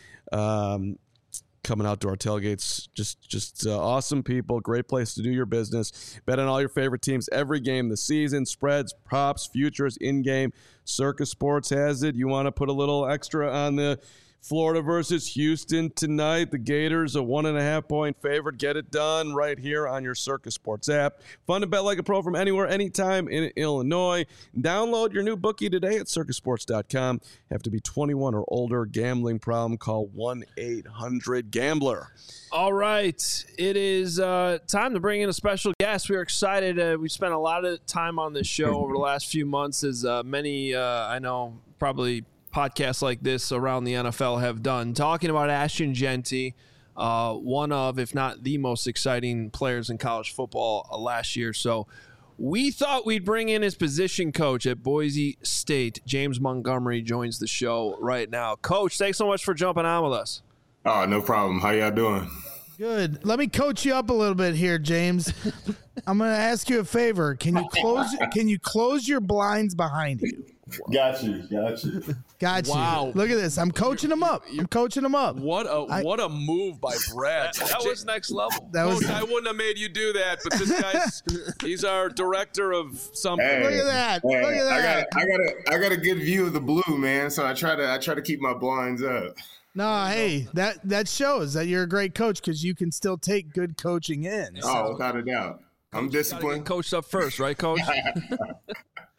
Coming out to our tailgates, just awesome people, great place to do your business. Bet on all your favorite teams every game this season, spreads, props, futures, in-game. Circa Sports has it. You want to put a little extra on the Florida versus Houston tonight. The Gators, a 1.5-point favorite. Get it done right here on your Circa Sports app. Fun to bet like a pro from anywhere, anytime in Illinois. Download your new bookie today at circasports.com. Have to be 21 or older. Gambling problem, call 1-800-GAMBLER. All right. It is time to bring in a special guest. We're excited. We spent a lot of time on this show over the last few months, as many, I know, probably podcasts like this around the NFL have done, talking about Ashton Jeanty, one of, if not the most exciting players in college football last year. So we thought we'd bring in his position coach at Boise State. James Montgomery joins the show right now. Coach, thanks so much for jumping on with us. Oh, no problem. How y'all doing? Good. Let me coach you up a little bit here, James. I'm going to ask you a favor. Can you close your blinds behind you? Got you. Wow. Look at this. I'm coaching him up. What a move by Brad. That was next level. Coach, I wouldn't have made you do that, but this he's our director of something. Hey, look at that. Hey, look at that. I got a good view of the blue, man. So I try to keep my blinds up. No, hey, that shows that you're a great coach because you can still take good coaching in. Oh, without a doubt. I'm disciplined. Get coached up first, right, Coach?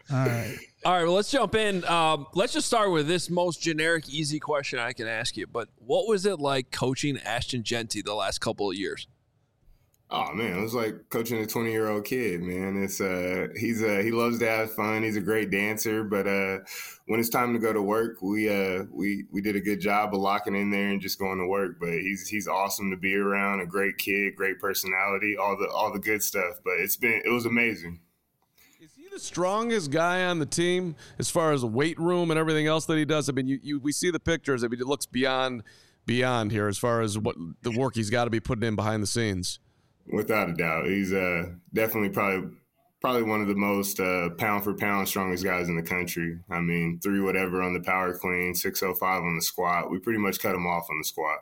All right. All right, well, let's jump in. Let's just start with this most generic, easy question I can ask you. But what was it like coaching Ashton Jeanty the last couple of years? Oh man, it was like coaching a 20-year-old kid, man. It's he loves to have fun. He's a great dancer, but when it's time to go to work, we did a good job of locking in there and just going to work. But he's awesome to be around, a great kid, great personality, all the good stuff. But it was amazing. Is he the strongest guy on the team as far as the weight room and everything else that he does? I mean, we see the pictures. I mean, it looks beyond here as far as what the work he's got to be putting in behind the scenes. Without a doubt. He's definitely probably one of the most pound for pound strongest guys in the country. I mean, 3 whatever on the power clean, 605 on the squat. We pretty much cut him off on the squat.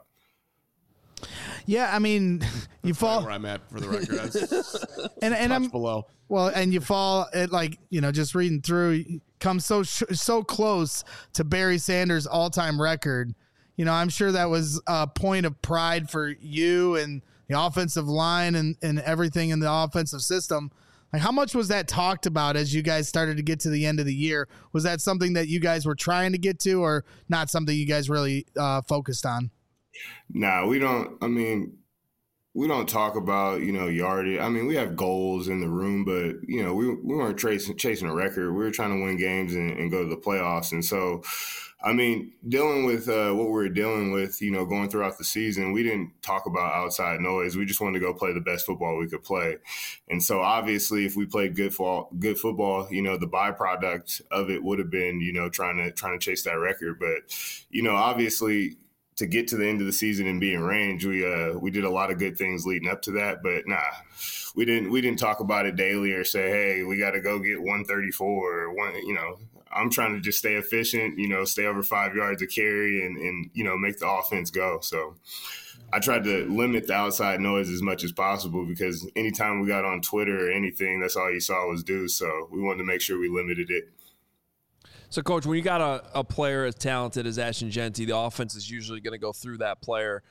Yeah, I mean, you fall where I'm at for the record. and I'm below. Well, and you fall at just reading through, come so close to Barry Sanders' all-time record. I'm sure that was a point of pride for you and the offensive line and everything in the offensive system. Like, how much was that talked about as you guys started to get to the end of the year? Was that something that you guys were trying to get to, or not something you guys really focused on? Nah, we don't. I mean, we don't talk about, yardage. I mean, we have goals in the room, but, we weren't chasing a record. We were trying to win games and go to the playoffs. And so, I mean, dealing with what we were dealing with, going throughout the season, we didn't talk about outside noise. We just wanted to go play the best football we could play. And so, obviously, if we played good football, the byproduct of it would have been, trying to chase that record. But, obviously, to get to the end of the season and be in range, we did a lot of good things leading up to that. But we didn't talk about it daily or say, hey, we got to go get 134 or one. I'm trying to just stay efficient, stay over 5 yards of carry and make the offense go. So I tried to limit the outside noise as much as possible, because anytime we got on Twitter or anything, that's all you saw was Deuce. So we wanted to make sure we limited it. So, Coach, when you got a player as talented as Ashton Jeanty, the offense is usually going to go through that player.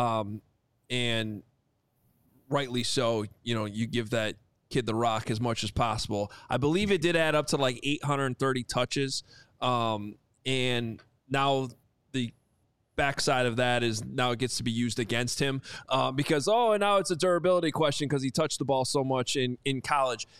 And rightly so, you give that kid the rock as much as possible. I believe it did add up to like 830 touches. And now the backside of that is now it gets to be used against him because, and now it's a durability question because he touched the ball so much in college.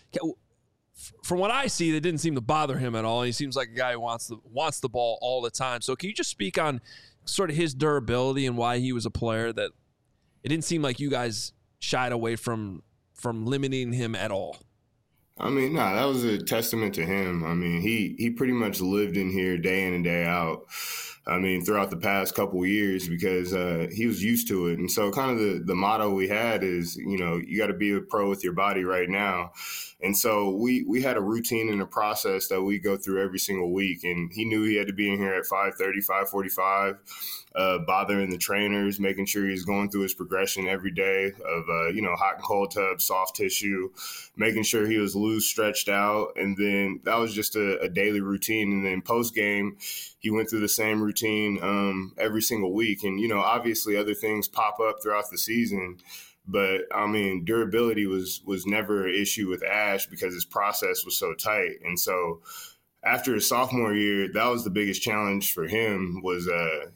From what I see, that didn't seem to bother him at all. He seems like a guy who wants the ball all the time. So can you just speak on sort of his durability and why he was a player that it didn't seem like you guys shied away from limiting him at all? I mean, that was a testament to him. I mean, he pretty much lived in here day in and day out. I mean, throughout the past couple of years, because he was used to it. And so kind of the motto we had is, you got to be a pro with your body right now. And so we had a routine and a process that we go through every single week. And he knew he had to be in here at 5:30, 5:45, bothering the trainers, making sure he's going through his progression every day of, hot and cold tub, soft tissue, making sure he was loose, stretched out. And then that was just a daily routine. And then post game, he went through the same routine every single week. And, obviously other things pop up throughout the season. But, I mean, durability was never an issue with Ash because his process was so tight. And so after his sophomore year, that was the biggest challenge for him was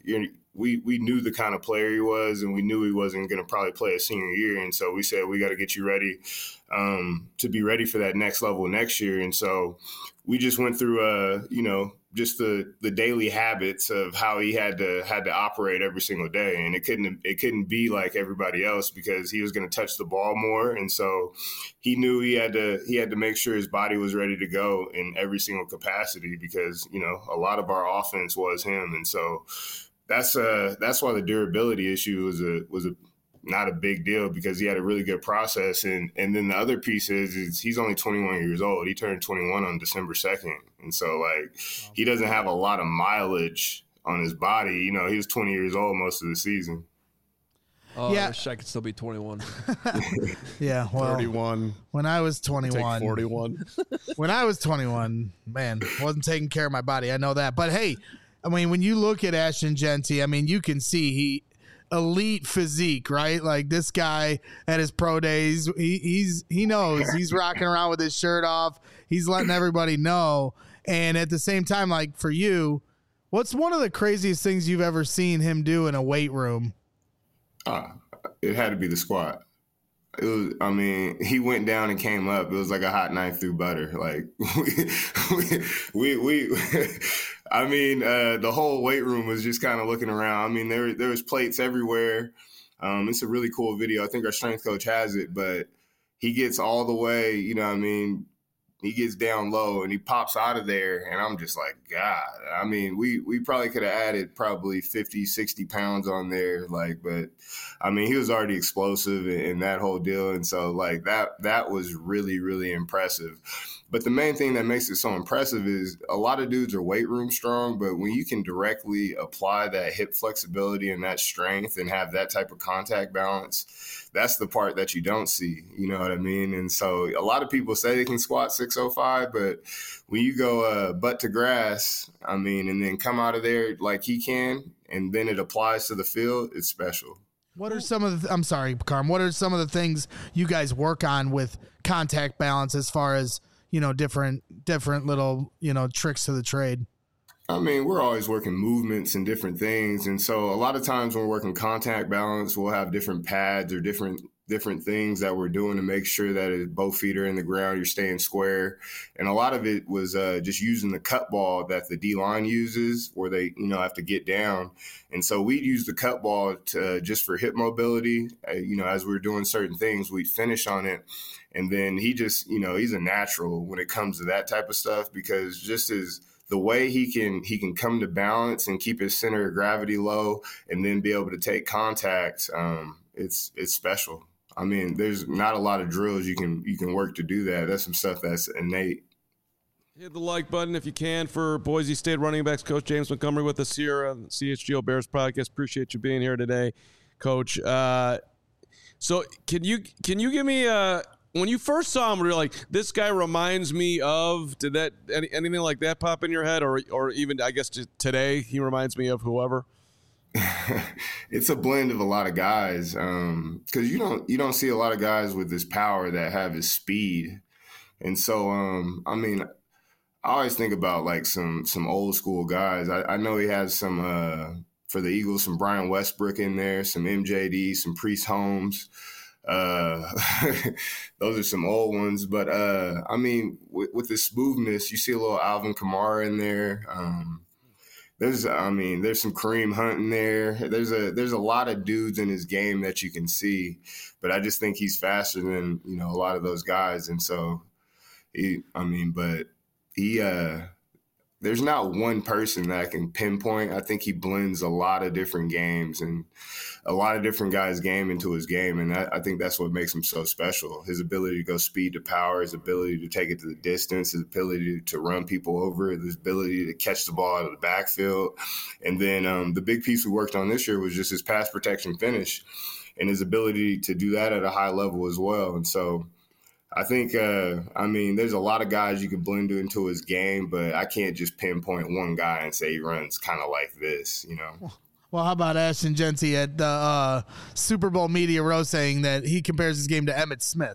we knew the kind of player he was, and we knew he wasn't going to probably play a senior year. And so we said, we got to get you ready to be ready for that next level next year. And so we just went through, just the daily habits of how he had to operate every single day. And it couldn't be like everybody else because he was going to touch the ball more. And so he knew he had to make sure his body was ready to go in every single capacity because, a lot of our offense was him. And so that's why the durability issue was not a big deal because he had a really good process. And then the other piece is he's only 21 years old. He turned 21 on December 2nd. And so he doesn't have a lot of mileage on his body. He was 20 years old most of the season. Oh, yeah. I wish I could still be 21. Yeah, well, 31. When I was 21. 41. When I was 21, man, wasn't taking care of my body. I know that. But, hey, I mean, when you look at Ashton Jeanty, I mean, you can see elite physique, right? Like this guy at his pro days, he knows he's rocking around with his shirt off. He's letting everybody know. And at the same time, like for you, what's one of the craziest things you've ever seen him do in a weight room? It had to be the squat. It was, I mean, he went down and came up. It was like a hot knife through butter. Like I mean, the whole weight room was just kind of looking around. I mean, there was plates everywhere. It's a really cool video. I think our strength coach has it, but he gets all the way, you know what I mean? He gets down low and he pops out of there. And I'm just like, God, I mean, we probably could have added probably 50, 60 pounds on there. Like, but I mean, he was already explosive in that whole deal. And so like that was really, really impressive. But the main thing that makes it so impressive is a lot of dudes are weight room strong, but when you can directly apply that hip flexibility and that strength and have that type of contact balance, that's the part that you don't see. You know what I mean? And so a lot of people say they can squat 605, but when you go butt to grass, I mean, and then come out of there like he can, and then it applies to the field, it's special. What are some of the, I'm sorry, Carm, what are some of the things you guys work on with contact balance as far as, you know, different little, you know, tricks to the trade? I mean, we're always working movements and different things. And so a lot of times when we're working contact balance, we'll have different pads or different things that we're doing to make sure that both feet are in the ground, you're staying square. And a lot of it was just using the cut ball that the D-line uses where they, you know, have to get down. And so we'd use the cut ball just for hip mobility. You know, as we were doing certain things, we'd finish on it. And then he just, you know, he's a natural when it comes to that type of stuff, because just as the way he can come to balance and keep his center of gravity low and then be able to take contact, it's special. I mean, there's not a lot of drills you can work to do that. That's some stuff that's innate. Hit the like button if you can for Boise State running backs Coach James Montgomery with us here on the CHGO Bears podcast. Appreciate you being here today, Coach. So can you give me when you first saw him, were you like, this guy reminds me of, did that anything like that pop in your head, or even I guess today he reminds me of whoever? It's a blend of a lot of guys, because you don't see a lot of guys with this power that have his speed, and so I mean, I always think about like some old school guys. I know he has some for the Eagles, some Brian Westbrook in there, some MJD, some Priest Holmes. Those are some old ones, but I mean, with the smoothness, you see a little Alvin Kamara in there. There's some Kareem Hunt in there. There's a lot of dudes in his game that you can see, but I just think he's faster than, you know, a lot of those guys. And so there's not one person that I can pinpoint. I think he blends a lot of different games and a lot of different guys' game into his game. And I think that's what makes him so special. His ability to go speed to power, his ability to take it to the distance, his ability to run people over, his ability to catch the ball out of the backfield. And then the big piece we worked on this year was just his pass protection finish and his ability to do that at a high level as well. And so I think, there's a lot of guys you can blend into his game, but I can't just pinpoint one guy and say he runs kind of like this, you know? Well, how about Ashton Jeanty at the Super Bowl media row saying that he compares his game to Emmitt Smith?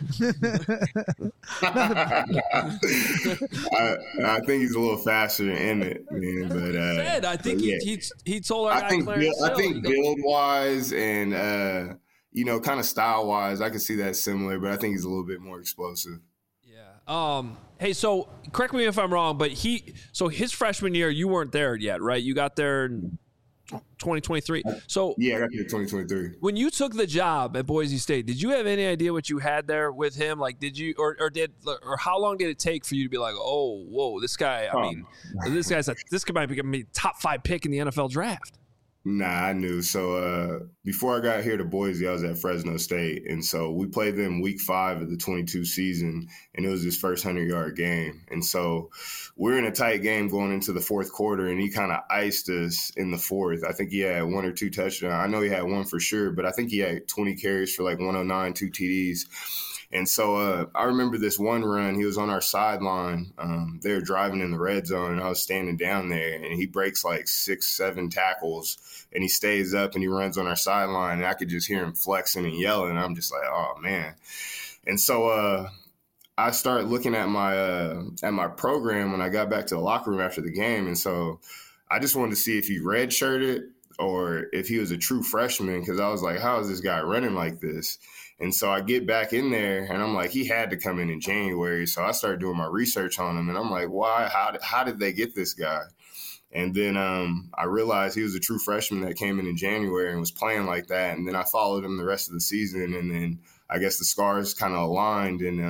I think he's a little faster than Emmett, man. But I think he told our guy Clarence Hill. I think build-wise and kind of style-wise, I can see that similar, but I think he's a little bit more explosive. Yeah. Hey, so correct me if I'm wrong, but his freshman year, you weren't there yet, right? You got there in 2023. So yeah, I got there in 2023. When you took the job at Boise State, did you have any idea what you had there with him? Like, did you, or how long did it take for you to be like, oh, whoa, this guy? I mean, this might be a top 5 pick in the NFL draft. Nah, I knew. So before I got here to Boise, I was at Fresno State. And so we played them week 5 of the 22 season, and it was his first 100-yard game. And so we're in a tight game going into the fourth quarter, and he kind of iced us in the fourth. I think he had 1 or 2 touchdowns. I know he had 1 for sure, but I think he had 20 carries for like 109, 2 TDs. And so I remember this one run, he was on our sideline. They were driving in the red zone, and I was standing down there, and he breaks like 6-7 tackles, and he stays up and he runs on our sideline, and I could just hear him flexing and yelling. I'm just like, oh, man. And so I started looking at my program when I got back to the locker room after the game. And so I just wanted to see if he redshirted or if he was a true freshman, because I was like, how is this guy running like this? And so I get back in there, and I'm like, he had to come in January. So I started doing my research on him, and I'm like, why? How did they get this guy? And then I realized he was a true freshman that came in January and was playing like that. And then I followed him the rest of the season, and then I guess the scars kind of aligned, and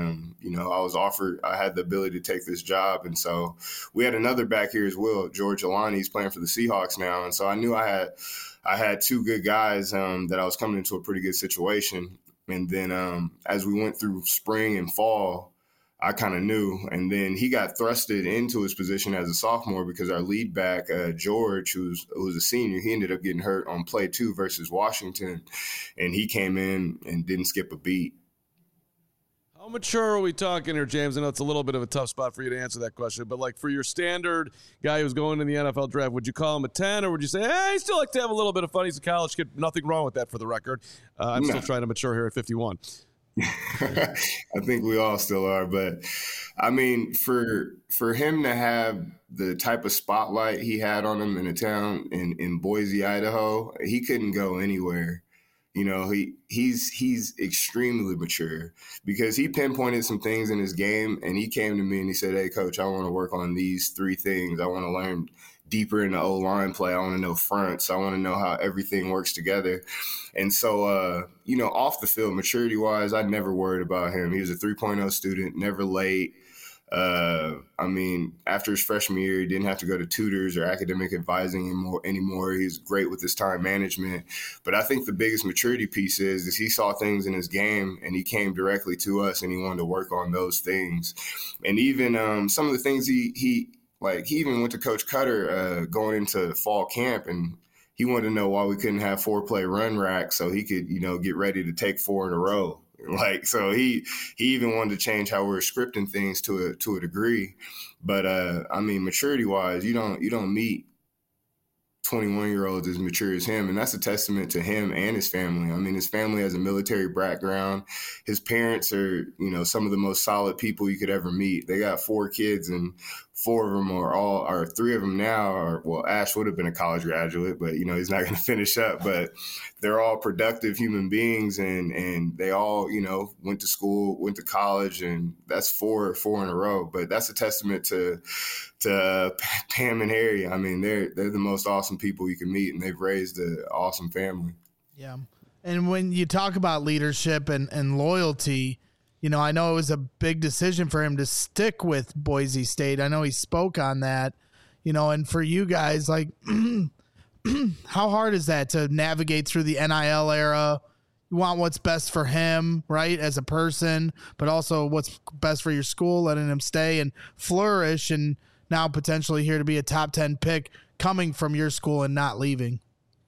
I had the ability to take this job. And so we had another back here as well, George Alani. He's playing for the Seahawks now. And so I knew I had two good guys that I was coming into a pretty good situation. And then as we went through spring and fall, I kind of knew. And then he got thrusted into his position as a sophomore because our lead back, George, who was a senior, he ended up getting hurt on play 2 versus Washington. And he came in and didn't skip a beat. How mature are we talking here, James? I know it's a little bit of a tough spot for you to answer that question, but like for your standard guy who's going in the NFL draft, would you call him a 10, or would you say, hey, he still like to have a little bit of fun? He's a college kid. Nothing wrong with that for the record. I'm still trying to mature here at 51. I think we all still are, but I mean, for him to have the type of spotlight he had on him in a town in Boise, Idaho, he couldn't go anywhere. You know, he's extremely mature because he pinpointed some things in his game, and he came to me and he said, hey, coach, I want to work on these 3 things. I want to learn deeper in the O-line play. I want to know fronts. I want to know how everything works together. And so, off the field, maturity-wise, I never worried about him. He was a 3.0 student, never late. After his freshman year, he didn't have to go to tutors or academic advising anymore. He's great with his time management. But I think the biggest maturity piece is he saw things in his game, and he came directly to us, and he wanted to work on those things. And even some of the things he even went to Coach Cutter going into fall camp, and he wanted to know why we couldn't have 4-play run rack so he could, get ready to take 4 in a row. So he even wanted to change how we were scripting things to a degree. But maturity wise, you don't meet 21-year-olds as mature as him. And that's a testament to him and his family. I mean, his family has a military background. His parents are, some of the most solid people you could ever meet. They got 4 kids, and 4 of them or 3 of them now are, well, Ash would have been a college graduate, but, he's not going to finish up. But they're all productive human beings, and they all, went to school, went to college, and that's 4 in a row. But that's a testament to Pam and Harry. I mean, they're the most awesome people you can meet, and they've raised an awesome family. Yeah. And when you talk about leadership and loyalty, I know it was a big decision for him to stick with Boise State. I know he spoke on that, and for you guys, like, how hard is that to navigate through the NIL era? You want what's best for him, right, as a person, but also what's best for your school, letting him stay and flourish, and now potentially here to be a top 10 pick coming from your school and not leaving.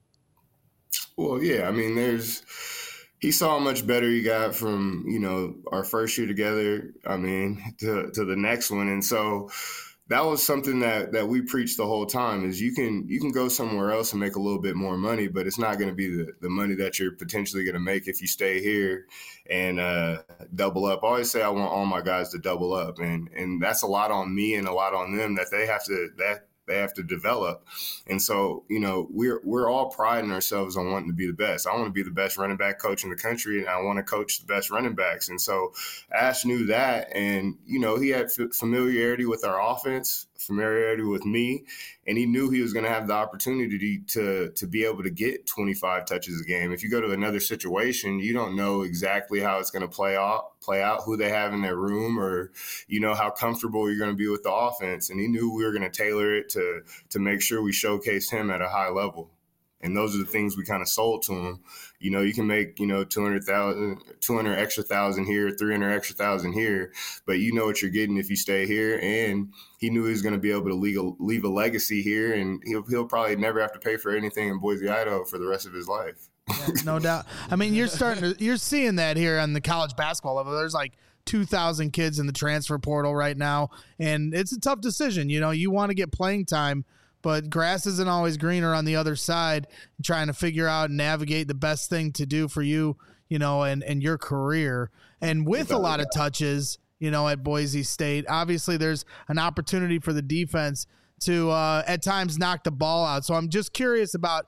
Well, yeah, I mean, he saw how much better he got from, our first year together, to the next one. And so that was something that we preached the whole time is you can go somewhere else and make a little bit more money, but it's not going to be the money that you're potentially going to make if you stay here and double up. I always say I want all my guys to double up, and that's a lot on me and a lot on them that they have to develop. And so, we're all priding ourselves on wanting to be the best. I want to be the best running back coach in the country, and I want to coach the best running backs. And so Ash knew that, and, he had familiarity with our offense, familiarity with me, and he knew he was going to have the opportunity to be able to get 25 touches a game. If you go to another situation, you don't know exactly how it's going to play out, who they have in their room, or, how comfortable you're going to be with the offense. And he knew we were going to tailor it to make sure we showcased him at a high level. And those are the things we kind of sold to him. You can make, 200 extra thousand here, 300 extra thousand here, but you know what you're getting if you stay here. And he knew he was going to be able to leave a legacy here, and he'll probably never have to pay for anything in Boise, Idaho for the rest of his life. Yeah, no doubt. I mean, you're seeing that here on the college basketball level. There's like 2,000 kids in the transfer portal right now, and it's a tough decision. You want to get playing time, but grass isn't always greener on the other side. Trying to figure out and navigate the best thing to do for you, and your career. And with a lot of touches, at Boise State, obviously there's an opportunity for the defense to at times knock the ball out. So I'm just curious about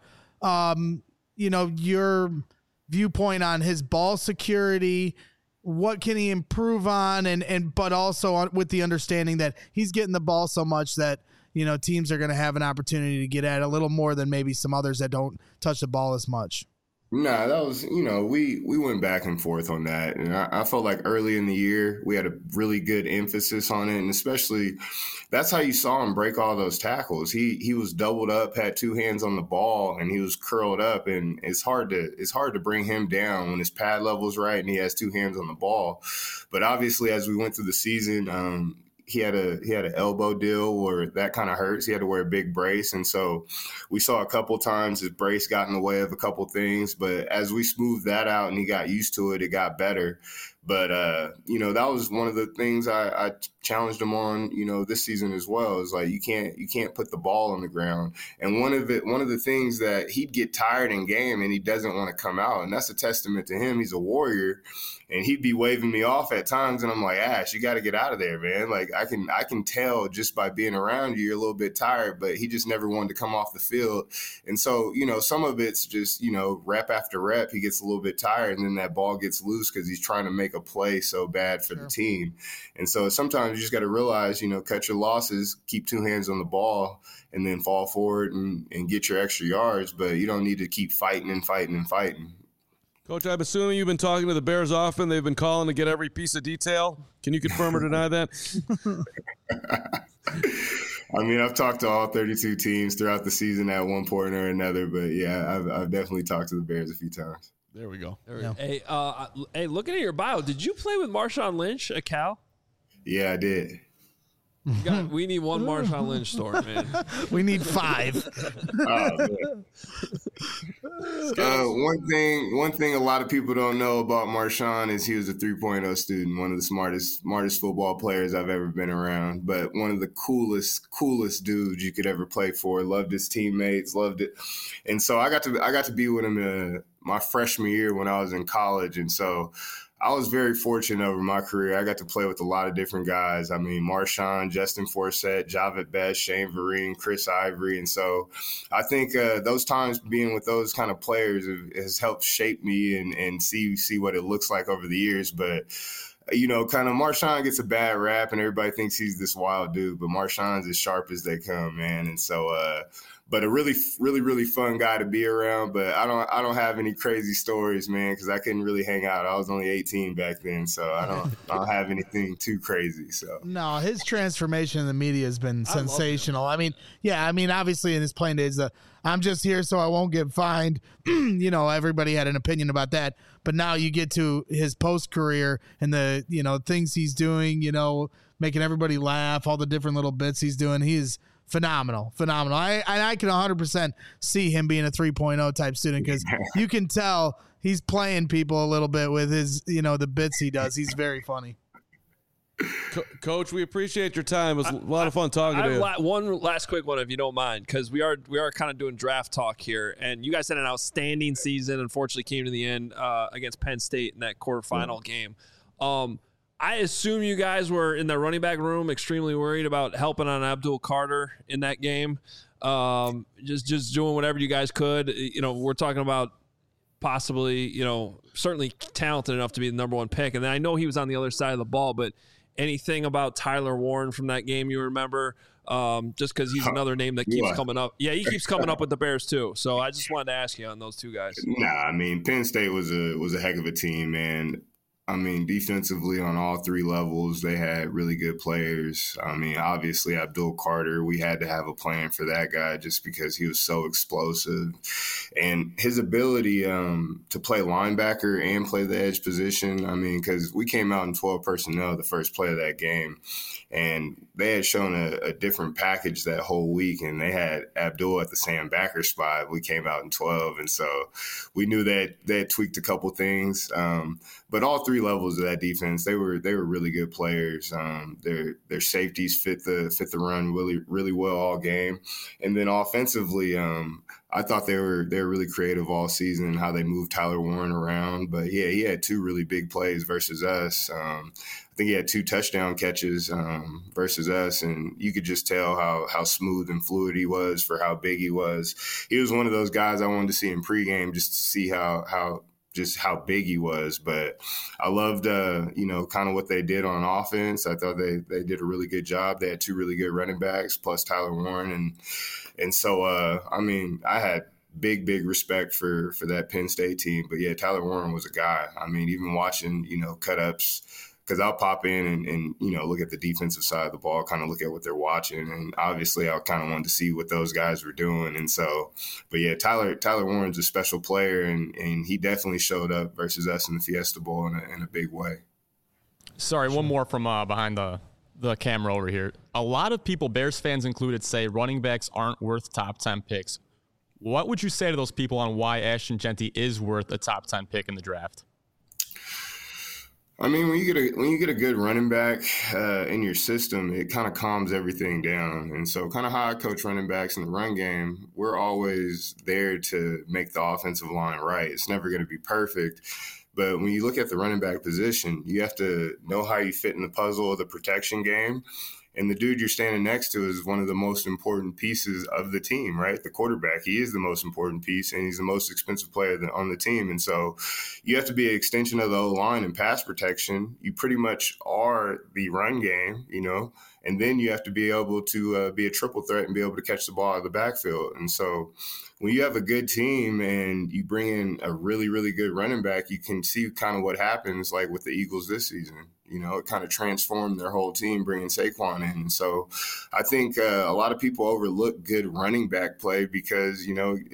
your viewpoint on his ball security. What can he improve on? But also with the understanding that he's getting the ball so much that, teams are going to have an opportunity to get at a little more than maybe some others that don't touch the ball as much. Nah, that was, we went back and forth on that. And I felt like early in the year, we had a really good emphasis on it. And especially that's how you saw him break all those tackles. He was doubled up, had two hands on the ball, and he was curled up. And it's hard to bring him down when his pad level's right and he has two hands on the ball. But obviously, as we went through the season, he had an elbow deal where that kind of hurts. He had to wear a big brace. And so we saw a couple times his brace got in the way of a couple things. But as we smoothed that out and he got used to it, it got better. But, that was one of the things I challenged him on, this season as well. Is like you can't put the ball on the ground. And one of the things that he'd get tired in game and he doesn't want to come out. And that's a testament to him. He's a warrior. And he'd be waving me off at times, and I'm like, Ash, you got to get out of there, man. Like I can tell just by being around you, you're a little bit tired. But he just never wanted to come off the field, and so some of it's just rep after rep, he gets a little bit tired, and then that ball gets loose because he's trying to make a play so bad for the team. And so sometimes you just got to realize, cut your losses, keep two hands on the ball, and then fall forward and get your extra yards. But you don't need to keep fighting and fighting and fighting. Coach, I'm assuming you've been talking to the Bears often. They've been calling to get every piece of detail. Can you confirm or deny that? I mean, I've talked to all 32 teams throughout the season at one point or another. But, yeah, I've definitely talked to the Bears a few times. There we go. Hey, looking at your bio, did you play with Marshawn Lynch at Cal? Yeah, I did. We need one Marshawn Lynch story, man. We need 5. One thing a lot of people don't know about Marshawn is he was a 3.0 student, one of the smartest football players I've ever been around, but one of the coolest dudes you could ever play for. Loved his teammates, loved it. And so I got to be with him my freshman year when I was in college. And so I was very fortunate over my career. I got to play with a lot of different guys. I mean, Marshawn, Justin Forsett, Javit Best, Shane Vereen, Chris Ivory. And so I think those times being with those kind of players has helped shape me and see what it looks like over the years. But, kind of Marshawn gets a bad rap and everybody thinks he's this wild dude, but Marshawn's as sharp as they come, man. And so, but a really, really, really fun guy to be around. But I don't have any crazy stories, man, because I couldn't really hang out. I was only 18 back then, so I don't have anything too crazy. So no, his transformation in the media has been sensational. I mean, obviously in his playing days, I'm just here so I won't get fined. Everybody had an opinion about that. But now you get to his post career and the things he's doing, making everybody laugh, all the different little bits he's doing. He is phenomenal. I can 100% see him being a 3.0 type student because you can tell he's playing people a little bit with his, the bits he does. He's very funny. Coach, we appreciate your time. It was a lot of fun talking to you. One last quick one, if you don't mind, because we are kind of doing draft talk here, and you guys had an outstanding season. Unfortunately, came to the end against Penn State in that quarterfinal game. I assume you guys were in the running back room extremely worried about helping on Abdul Carter in that game. Just doing whatever you guys could. We're talking about possibly, certainly talented enough to be the number 1 pick. And then I know he was on the other side of the ball, but anything about Tyler Warren from that game you remember? Just because he's another name that keeps coming up. Yeah, he keeps coming up with the Bears too. So I just wanted to ask you on those two guys. Nah, I mean, Penn State was a heck of a team, man. I mean, defensively on all three levels, they had really good players. I mean, obviously, Abdul Carter, we had to have a plan for that guy just because he was so explosive. And his ability to play linebacker and play the edge position, I mean, because we came out in 12 personnel the first play of that game, and they had shown a different package that whole week, and they had Abdul at the Sam backer spot. We came out in 12, and so we knew that they had tweaked a couple things. But all three levels of that defense, they were really good players. Their safeties fit the run really well all game, and then offensively, I thought they were really creative all season how they moved Tyler Warren around. But yeah, he had two really big plays versus us. I think he had 2 touchdown catches versus us, and you could just tell how smooth and fluid he was for how big he was. He was one of those guys I wanted to see in pregame just to see how big he was. But I loved, kind of what they did on offense. I thought they did a really good job. They had 2 really good running backs plus Tyler Warren. And so, I mean, I had big respect for that Penn State team. But, yeah, Tyler Warren was a guy. I mean, even watching, cut-ups, because I'll pop in and look at the defensive side of the ball, kind of look at what they're watching. And obviously I kind of wanted to see what those guys were doing. And so, but yeah, Tyler Warren's a special player, and he definitely showed up versus us in the Fiesta Bowl in a big way. Sorry, one more from behind the camera over here. A lot of people, Bears fans included, say running backs aren't worth top 10 picks. What would you say to those people on why Ashton Jeanty is worth a top 10 pick in the draft? I mean, when you get a good running back in your system, it kind of calms everything down. And so kind of how I coach running backs in the run game, we're always there to make the offensive line right. It's never going to be perfect. But when you look at the running back position, you have to know how you fit in the puzzle of the protection game. And the dude you're standing next to is one of the most important pieces of the team, right? The quarterback, he is the most important piece, and he's the most expensive player on the team. And so you have to be an extension of the O-line and pass protection. You pretty much are the run game, and then you have to be able to be a triple threat and be able to catch the ball out of the backfield. And so when you have a good team and you bring in a really, really good running back, you can see kind of what happens like with the Eagles this season. It kind of transformed their whole team, bringing Saquon in. And so I think a lot of people overlook good running back play because,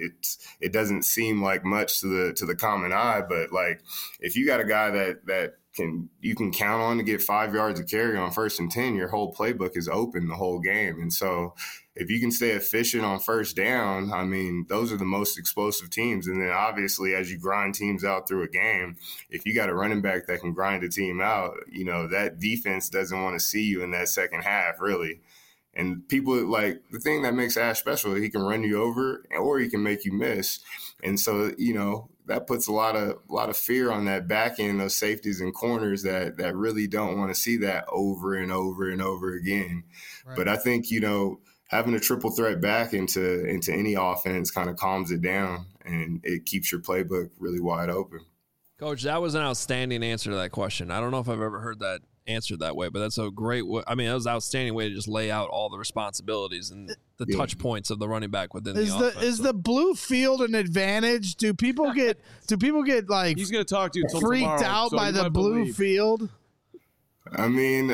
it doesn't seem like much to the common eye. But, like, if you got a guy that you can count on to get 5 yards of carry on 1st and 10, your whole playbook is open the whole game. And so if you can stay efficient on 1st down, I mean, those are the most explosive teams. And then obviously as you grind teams out through a game, if you got a running back that can grind a team out, that defense doesn't want to see you in that second half, really. And people, like, the thing that makes Ash special, he can run you over or he can make you miss. And so, that puts a lot of fear on that back end, those safeties and corners that really don't want to see that over and over and over again. Right. But I think, having a triple threat back into any offense kind of calms it down, and it keeps your playbook really wide open. Coach, that was an outstanding answer to that question. I don't know if I've ever heard that answered that way, but that's a great way. I mean, that was an outstanding way to just lay out all the responsibilities and the touch points of the running back within the offense. Is the blue field an advantage? Do people get like he's going to talk to you freaked tomorrow, out by the blue field? I mean,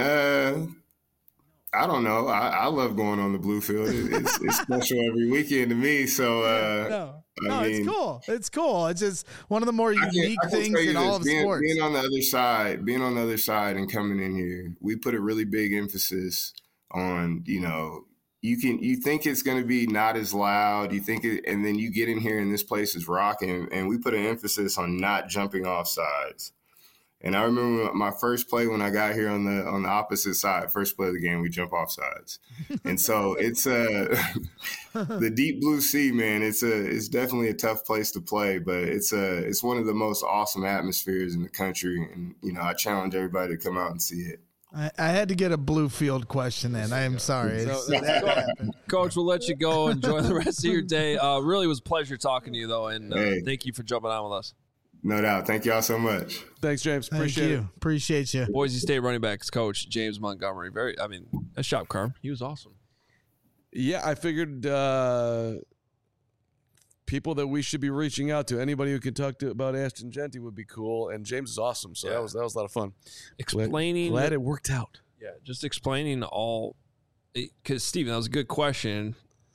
I don't know. I love going on the blue field. It's special every weekend to me. So I mean, it's cool. It's cool. It's just one of the more unique things in all of sports. Being on the other side and coming in here, we put a really big emphasis on, you think it's going to be not as loud. You think it, and then you get in here and this place is rocking, and we put an emphasis on not jumping off sides. And I remember my first play when I got here on the opposite side, first play of the game, we jump off sides. And so it's the deep blue sea, man. It's definitely a tough place to play, but it's one of the most awesome atmospheres in the country. And, I challenge everybody to come out and see it. I had to get a blue field question in. I am sorry. Coach, we'll let you go. Enjoy the rest of your day. Really was a pleasure talking to you, though, and thank you for jumping on with us. No doubt. Thank y'all so much. Thanks, James. Appreciate it. Appreciate you. Boise State running backs coach, James Montgomery. Nice job, Carm. He was awesome. Yeah, I figured people that we should be reaching out to. Anybody who can talk to about Ashton Jeanty would be cool. And James is awesome. So that was a lot of fun. Explaining. Glad it worked out. Yeah, just explaining all. Because, Steven, that was a good question.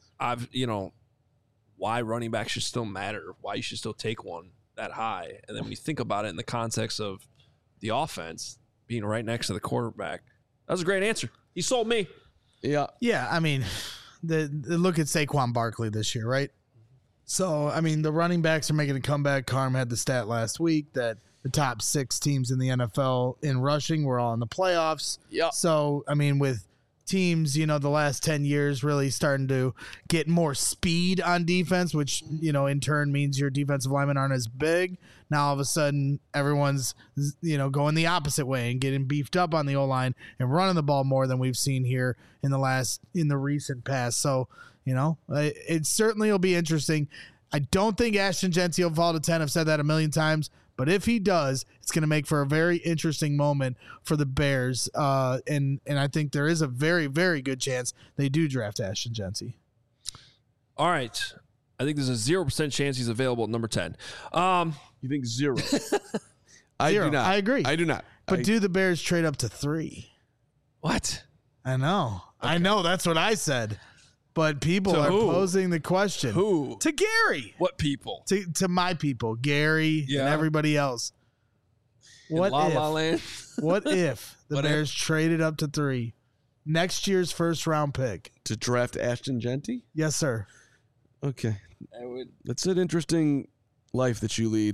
Why running back should still matter, why you should still take one that high. And then when you think about it in the context of the offense being right next to the quarterback, that was a great answer. He sold me. Yeah. Yeah, I mean, the look at Saquon Barkley this year, right? So, I mean, the running backs are making a comeback. Carm had the stat last week that the top 6 teams in the NFL in rushing were all in the playoffs. Yeah. So, I mean, with teams, the last 10 years really starting to get more speed on defense, which, in turn means your defensive linemen aren't as big. Now, all of a sudden, everyone's, going the opposite way and getting beefed up on the O-line and running the ball more than we've seen here in the recent past. So, it certainly will be interesting. I don't think Ashton Jeanty will fall to 10. I've said that a million times. But if he does, it's going to make for a very interesting moment for the Bears. And I think there is a very, very good chance they do draft Ashton Jeanty. All right. I think there's a 0% chance he's available at number 10. You think 0? I Zero. do not. I agree. I do not. But do the Bears trade up to 3? What? I know. Okay. I know. That's what I said. But people are posing the question. Who? To Gary. What people? To my people, Gary and everybody else. What La if? La Land? What if the Bears traded up to 3? Next year's first round pick. To draft Ashton Jeanty? Yes, sir. Okay. That's an interesting life that you lead.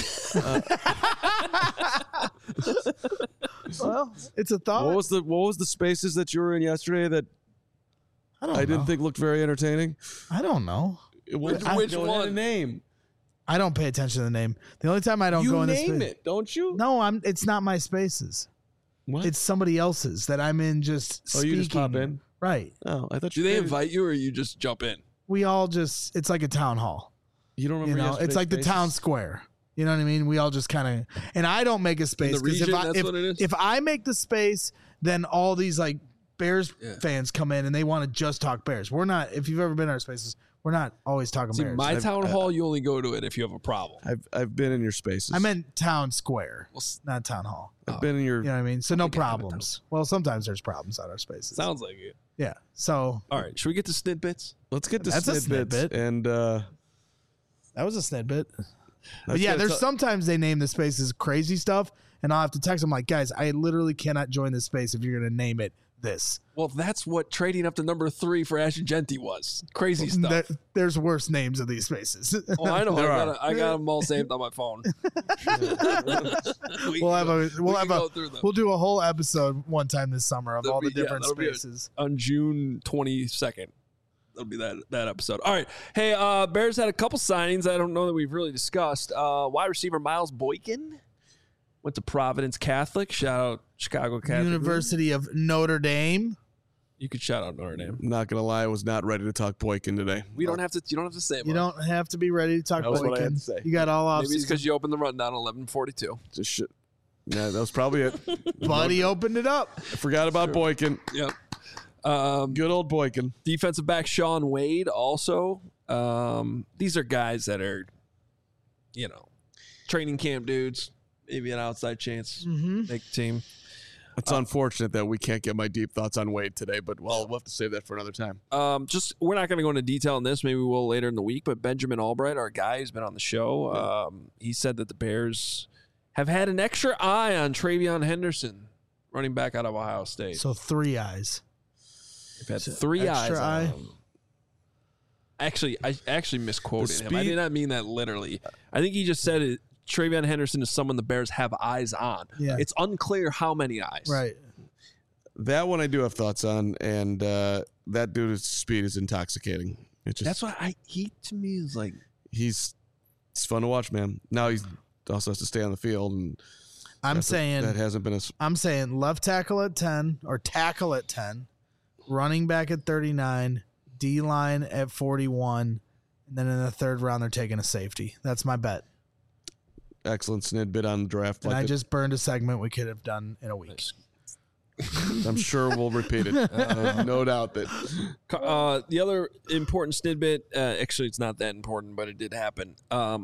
Well, it's a thought. What was the spaces that you were in yesterday that I didn't think looked very entertaining? I don't know. Which one? Name. I don't pay attention to the name. The only time I don't go in this name it, don't you? No, it's not my spaces. What? It's somebody else's that I'm in just speaking. You just pop in? Right. Oh, I thought Do they invite you or you just jump in? We all just, it's like a town hall. You don't remember it's like spaces? the town square. You know what I mean? We all just kind of, and I don't make a space. In the region, what it is? If I make the space, then all these like Bears fans come in and they want to just talk Bears. We're not, if you've ever been in our spaces, we're not always talking Bears. My town hall, you only go to it if you have a problem. I've been in your spaces. I meant town square, not town hall. I've been in your. You know what I mean? So no problems. Well, sometimes there's problems at our spaces. Sounds like it. Yeah. So. All right. Should we get to snidbits? Let's get to That's a snidbits. snidbit. And that was a snidbit. But yeah, there's sometimes they name the spaces crazy stuff, and I'll have to text them like, guys, I literally cannot join this space if you're going to name it this. Well, that's what trading up to number 3 for Ashton Jeanty was. Crazy stuff. There's worse names of these spaces. Oh, I know. I got them all saved on my phone. We'll do a whole episode one time this summer of all the different spaces on June 22nd. That'll be that episode. All right. Hey, Bears had a couple signings I don't know that we've really discussed. Wide receiver Miles Boykin went to Providence Catholic. Shout out Chicago Catholic. University of Notre Dame. You could shout out Notre Dame. I'm not gonna lie, I was not ready to talk Boykin today. You don't have to say it. You don't have to be ready to talk Boykin. What I had to say. You got all off. Maybe it's because you opened the rundown 11:42. Just shit. Yeah, that was probably it. Buddy opened it up. I forgot about Boykin. Yep. Good old Boykin. Defensive back Sean Wade also. These are guys that are, training camp dudes. Maybe an outside chance. Make the team. It's unfortunate that we can't get my deep thoughts on Wade today, but we'll have to save that for another time. We're not going to go into detail on this. Maybe we will later in the week. But Benjamin Albright, our guy who's been on the show, he said that the Bears have had an extra eye on TreVeyon Henderson, running back out of Ohio State. So 3 eyes. They've had 3 eyes on him. Actually, I misquoted him. I did not mean that literally. I think he just said it. TreVeyon Henderson is someone the Bears have eyes on. Yeah. It's unclear how many eyes. Right. That one I do have thoughts on, and that dude's speed is intoxicating. That's why he to me is like it's fun to watch, man. Now he also has to stay on the field, and I'm saying left tackle at 10 or tackle at 10, running back at 39, D line at 41, and then in the third round they're taking a safety. That's my bet. Excellent snidbit on the draft. And I just burned a segment we could have done in a week. I'm sure we'll repeat it. No doubt that. The other important snippet, actually, it's not that important, but it did happen.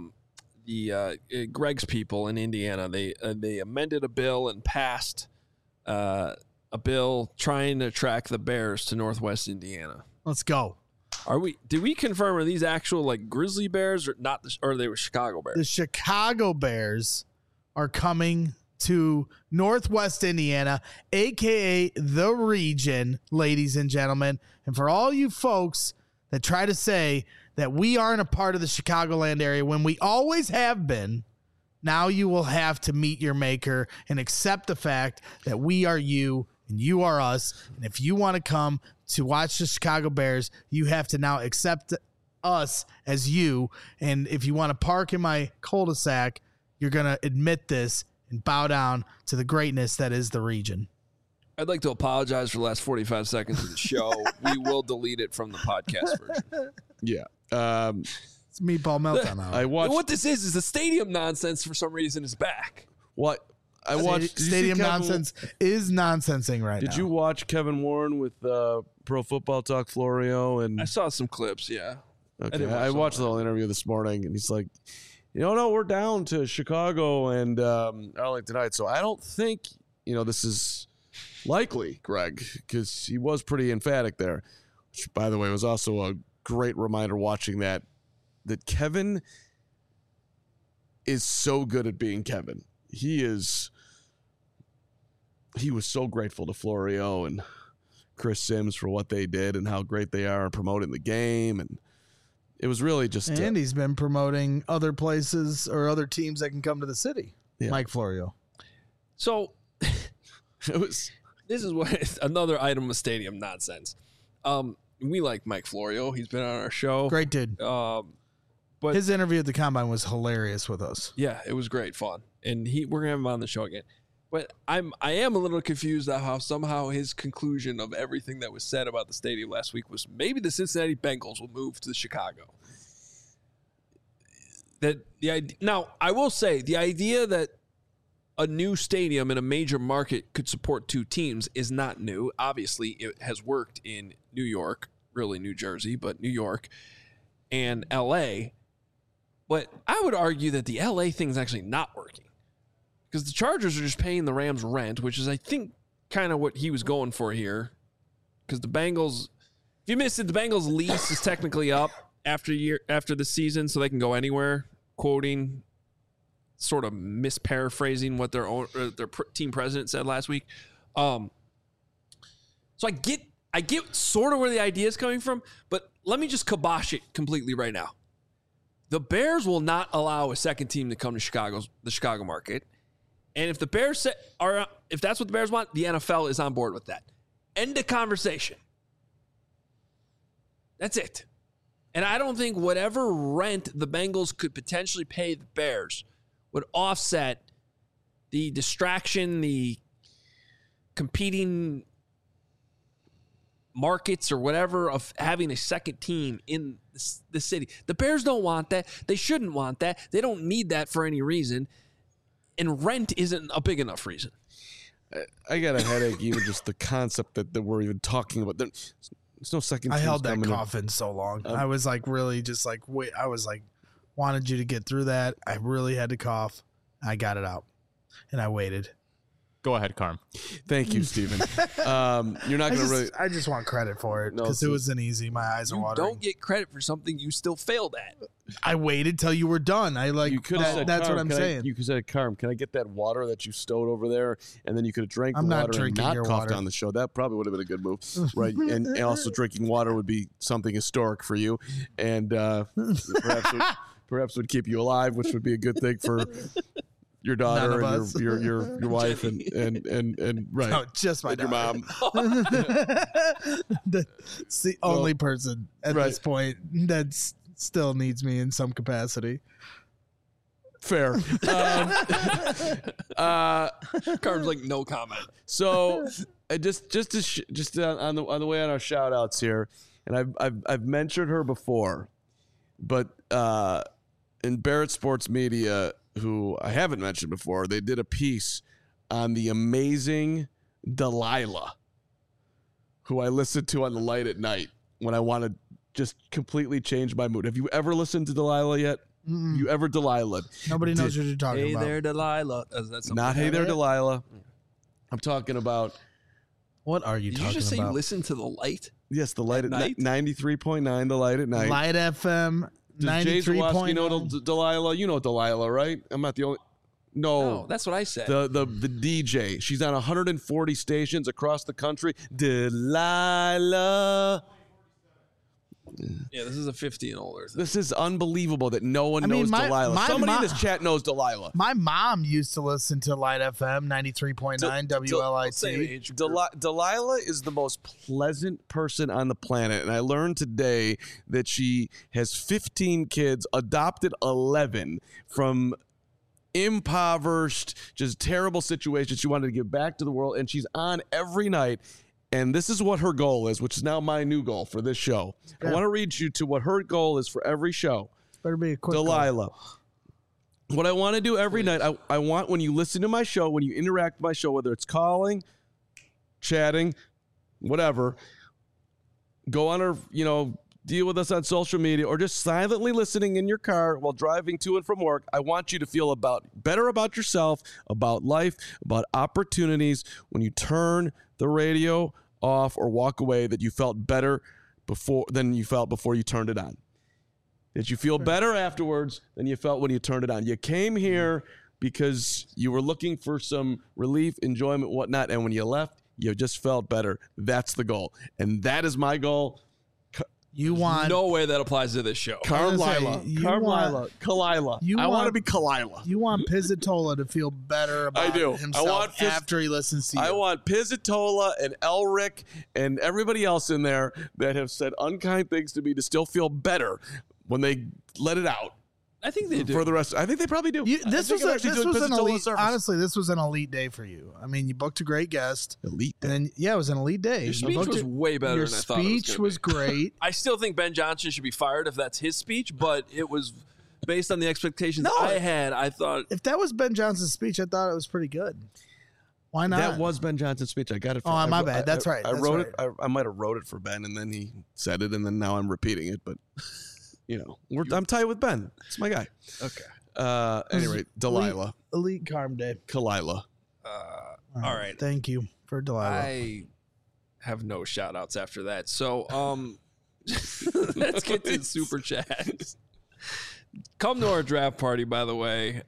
Greg's people in Indiana, they amended a bill and passed a bill trying to attract the Bears to Northwest Indiana. Let's go. Did we confirm, are these actual like Grizzly Bears or not? Or they were Chicago Bears? The Chicago Bears are coming to Northwest Indiana, aka the region, ladies and gentlemen. And for all you folks that try to say that we aren't a part of the Chicagoland area when we always have been, now you will have to meet your maker and accept the fact that we are you and you are us. And if you want to come to watch the Chicago Bears, you have to now accept us as you. And if you want to park in my cul-de-sac, you're going to admit this and bow down to the greatness that is the region. I'd like to apologize for the last 45 seconds of the show. We will delete it from the podcast version. Yeah. It's Meatball Meltdown. I watched. What this is the stadium nonsense for some reason is back. What? I watched. Stadium nonsense is nonsensing right now. Did you watch Kevin Warren with Pro Football Talk Florio? And I saw some clips, yeah. Okay. I watched the whole interview this morning, and he's like, no, we're down to Chicago and Arlington Heights. So I don't think, this is likely, Greg, because he was pretty emphatic there. Which, by the way, was also a great reminder watching that Kevin is so good at being Kevin. He was so grateful to Florio and Chris Sims for what they did and how great they are in promoting the game. And it was really just... And he's been promoting other places or other teams that can come to the city. Yeah. Mike Florio. So this is what another item of stadium nonsense. We like Mike Florio. He's been on our show. Great dude. But his interview at the Combine was hilarious with us. Yeah, it was great fun. And we're gonna have him on the show again. But I am a little confused at how somehow his conclusion of everything that was said about the stadium last week was maybe the Cincinnati Bengals will move to Chicago. Now, I will say the idea that a new stadium in a major market could support two teams is not new. Obviously, it has worked in New York, really New Jersey, but New York and LA. But I would argue that the LA thing is actually not working because the Chargers are just paying the Rams rent, which is, I think, kind of what he was going for here. Because the Bengals, if you missed it, the Bengals lease is technically up after the season, so they can go anywhere. Quoting, sort of misparaphrasing what their team president said last week. So I get sort of where the idea is coming from, but let me just kibosh it completely right now. The Bears will not allow a second team to come to the Chicago market. And if the Bears if that's what the Bears want, the NFL is on board with that. End of conversation. That's it. And I don't think whatever rent the Bengals could potentially pay the Bears would offset the distraction, the competing markets or whatever of having a second team in the city. The Bears don't want that. They shouldn't want that. They don't need that for any reason. And rent isn't a big enough reason. I got a headache, even just the concept that we're even talking about. There's no second team. I held that cough in so long. I was like, really just like, wait, I was like, wanted you to get through that. I really had to cough. I got it out. And I waited. Go ahead, Carm. Thank you, Steven. You're not going to really... I just want credit for it because it wasn't easy. My eyes are watering. You don't get credit for something you still failed at. I waited till you were done. You could have said, that's what I'm saying. You could have said, Carm, can I get that water that you stowed over there? And then you could have drank the water and not coughed on the show. That probably would have been a good move, right? and also drinking water would be something historic for you. And perhaps would keep you alive, which would be a good thing for... your daughter and your wife and right. No, just my your mom. It's the only person at this point that still needs me in some capacity. Fair. Carm's like no comment. So just on the way on our shout outs here, and I've mentioned her before, but in Barrett Sports Media, who I haven't mentioned before, they did a piece on the amazing Delilah. who I listen to on the light at night when I want to just completely change my mood. Have you ever listened to Delilah yet? You ever Delilah? Nobody knows what you're talking about. Hey there, Delilah. Not Hey There, Delilah. I'm talking about. What are you talking about? Did you just say you listen to The Light? Yes, The Light at night. 93.9, The Light at night. Light FM. Does Jay Zawaski know Delilah? You know Delilah, right? I'm not the only. No, that's what I said. The DJ. She's on 140 stations across the country. Delilah. Yeah, this is a 50 and older thing. This is unbelievable that no one knows Delilah. Somebody in this chat knows Delilah. My mom used to listen to Light FM 93.9 WLIT. Delilah is the most pleasant person on the planet, and I learned today that she has 15 kids, adopted 11 from impoverished, just terrible situations. She wanted to give back to the world, and she's on every night. And this is what her goal is, which is now my new goal for this show. Yeah. I want to read you to what her goal is for every show. Better be a quick Delilah. Goal. What I want to do every night, I want when you listen to my show, when you interact with my show, whether it's calling, chatting, whatever, go on or, deal with us on social media or just silently listening in your car while driving to and from work. I want you to feel better about yourself, about life, about opportunities when you turn the radio off or walk away, that you felt better than you felt before you turned it on. That you feel better afterwards than you felt when you turned it on. You came here because you were looking for some relief, enjoyment, whatnot, and when you left, you just felt better. That's the goal. And that is my goal. No way that applies to this show. Kalila. I want to be Kalila. You want Pizzatola to feel better about himself after he listens to you. I want Pizzatola and Elric and everybody else in there that have said unkind things to me to still feel better when they let it out. I think they do. For the rest, I think they probably do. This was an elite. Honestly, this was an elite day for you. I mean, you booked a great guest. Elite day. And it was an elite day. Your speech was way better than I thought it was. Your speech was great. I still think Ben Johnson should be fired if that's his speech, but it was based on the expectations I had. I thought if that was Ben Johnson's speech, I thought it was pretty good. Why not? That was Ben Johnson's speech. I got it. My bad. That's right. I wrote it. I might have wrote it for Ben, and then he said it, and then now I'm repeating it, but. I'm tight with Ben. It's my guy. Okay. Anyway, Delilah. Elite Carm Day. Kalila. All right. Thank you for Delilah. I have no shout outs after that. So let's get to the super chats. Come to our draft party, by the way.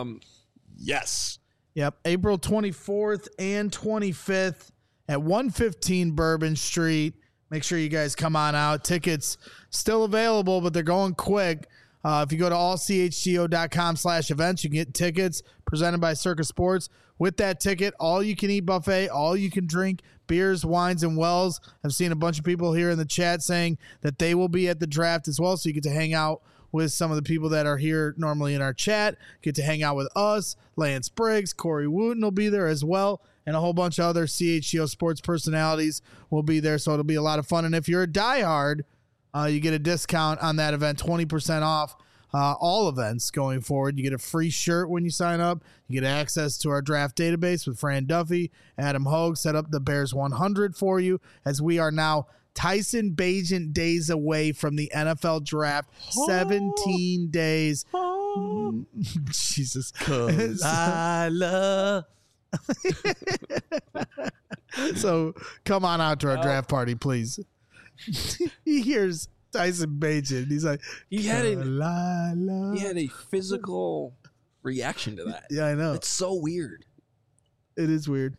Yes. Yep. April 24th and 25th at 115 Bourbon Street. Make sure you guys come on out. Tickets still available, but they're going quick. If you go to allchgo.com/events, you can get tickets presented by Circus Sports. With that ticket, all you can eat buffet, all you can drink, beers, wines, and wells. I've seen a bunch of people here in the chat saying that they will be at the draft as well. So you get to hang out with some of the people that are here normally in our chat, get to hang out with us. Lance Briggs, Corey Wooten will be there as well. And a whole bunch of other CHGO sports personalities will be there. So it'll be a lot of fun. And if you're a diehard, you get a discount on that event, 20% off all events going forward. You get a free shirt when you sign up. You get access to our draft database with Fran Duffy. Adam Hogue set up the Bears 100 for you, as we are now Tyson Bagent days away from the NFL draft. 17 days. Jesus. Delilah. So come on out to our draft party, please. He hears Tyson Bagent. He's like, he had a physical reaction to that. Yeah, I know. It's so weird. It is weird.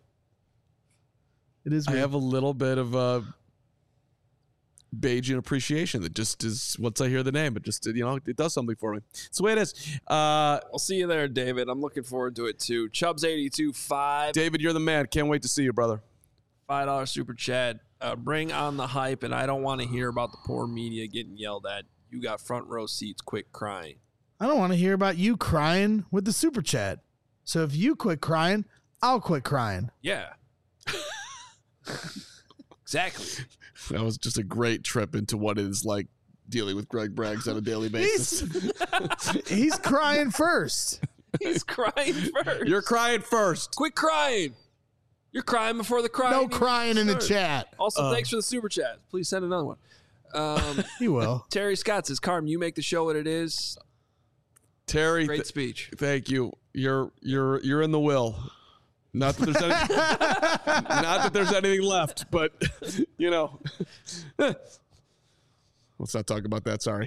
I have a little bit of Bagent appreciation that just is, once I hear the name, it just, it does something for me. It's the way it is. I'll see you there, David. I'm looking forward to it too. Chubbs82.5. David, you're the man. Can't wait to see you, brother. $5 super chat. Bring on the hype, and I don't want to hear about the poor media getting yelled at. You got front row seats. Quit crying. I don't want to hear about you crying with the super chat. So if you quit crying, I'll quit crying. Yeah. Exactly. That was just a great trip into what it is like dealing with Greg Braggs on a daily basis. He's crying first. He's crying first. You're crying first. Quit crying. You're crying before the crying. No crying in the chat. Also, thanks for the super chat. Please send another one. He will. Terry Scott says, Carm, you make the show what it is. Terry, great speech. Thank you. You're in the will. Not that there's anything left, but you know. Let's not talk about that. Sorry.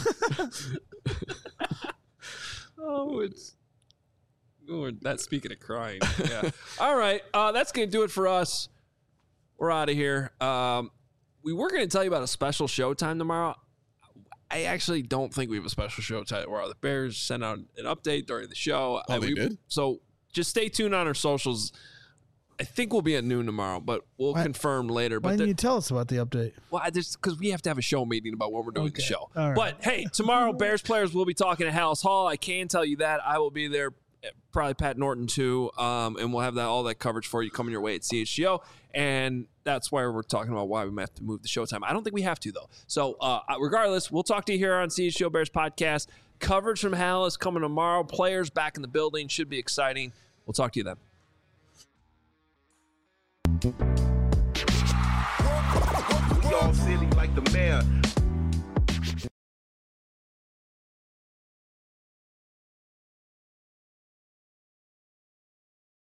That's speaking of crying. Yeah. All right. That's going to do it for us. We're out of here. We were going to tell you about a special showtime tomorrow. I actually don't think we have a special showtime tomorrow. The Bears sent out an update during the show. They did? So just stay tuned on our socials. I think we'll be at noon tomorrow, but we'll confirm later. Why didn't you tell us about the update? Well, because we have to have a show meeting about when we're doing the show. All right. But, hey, tomorrow, Bears players will be talking at Hallis Hall. I can tell you that. I will be there. Probably Pat Norton too, and we'll have all that coverage for you coming your way at CHGO, and that's why we're talking about why we might have to move the showtime. I don't think we have to though. So regardless, we'll talk to you here on CHGO Bears podcast. Coverage from Hallis coming tomorrow. Players back in the building, should be exciting. We'll talk to you then. We all silly like the mayor.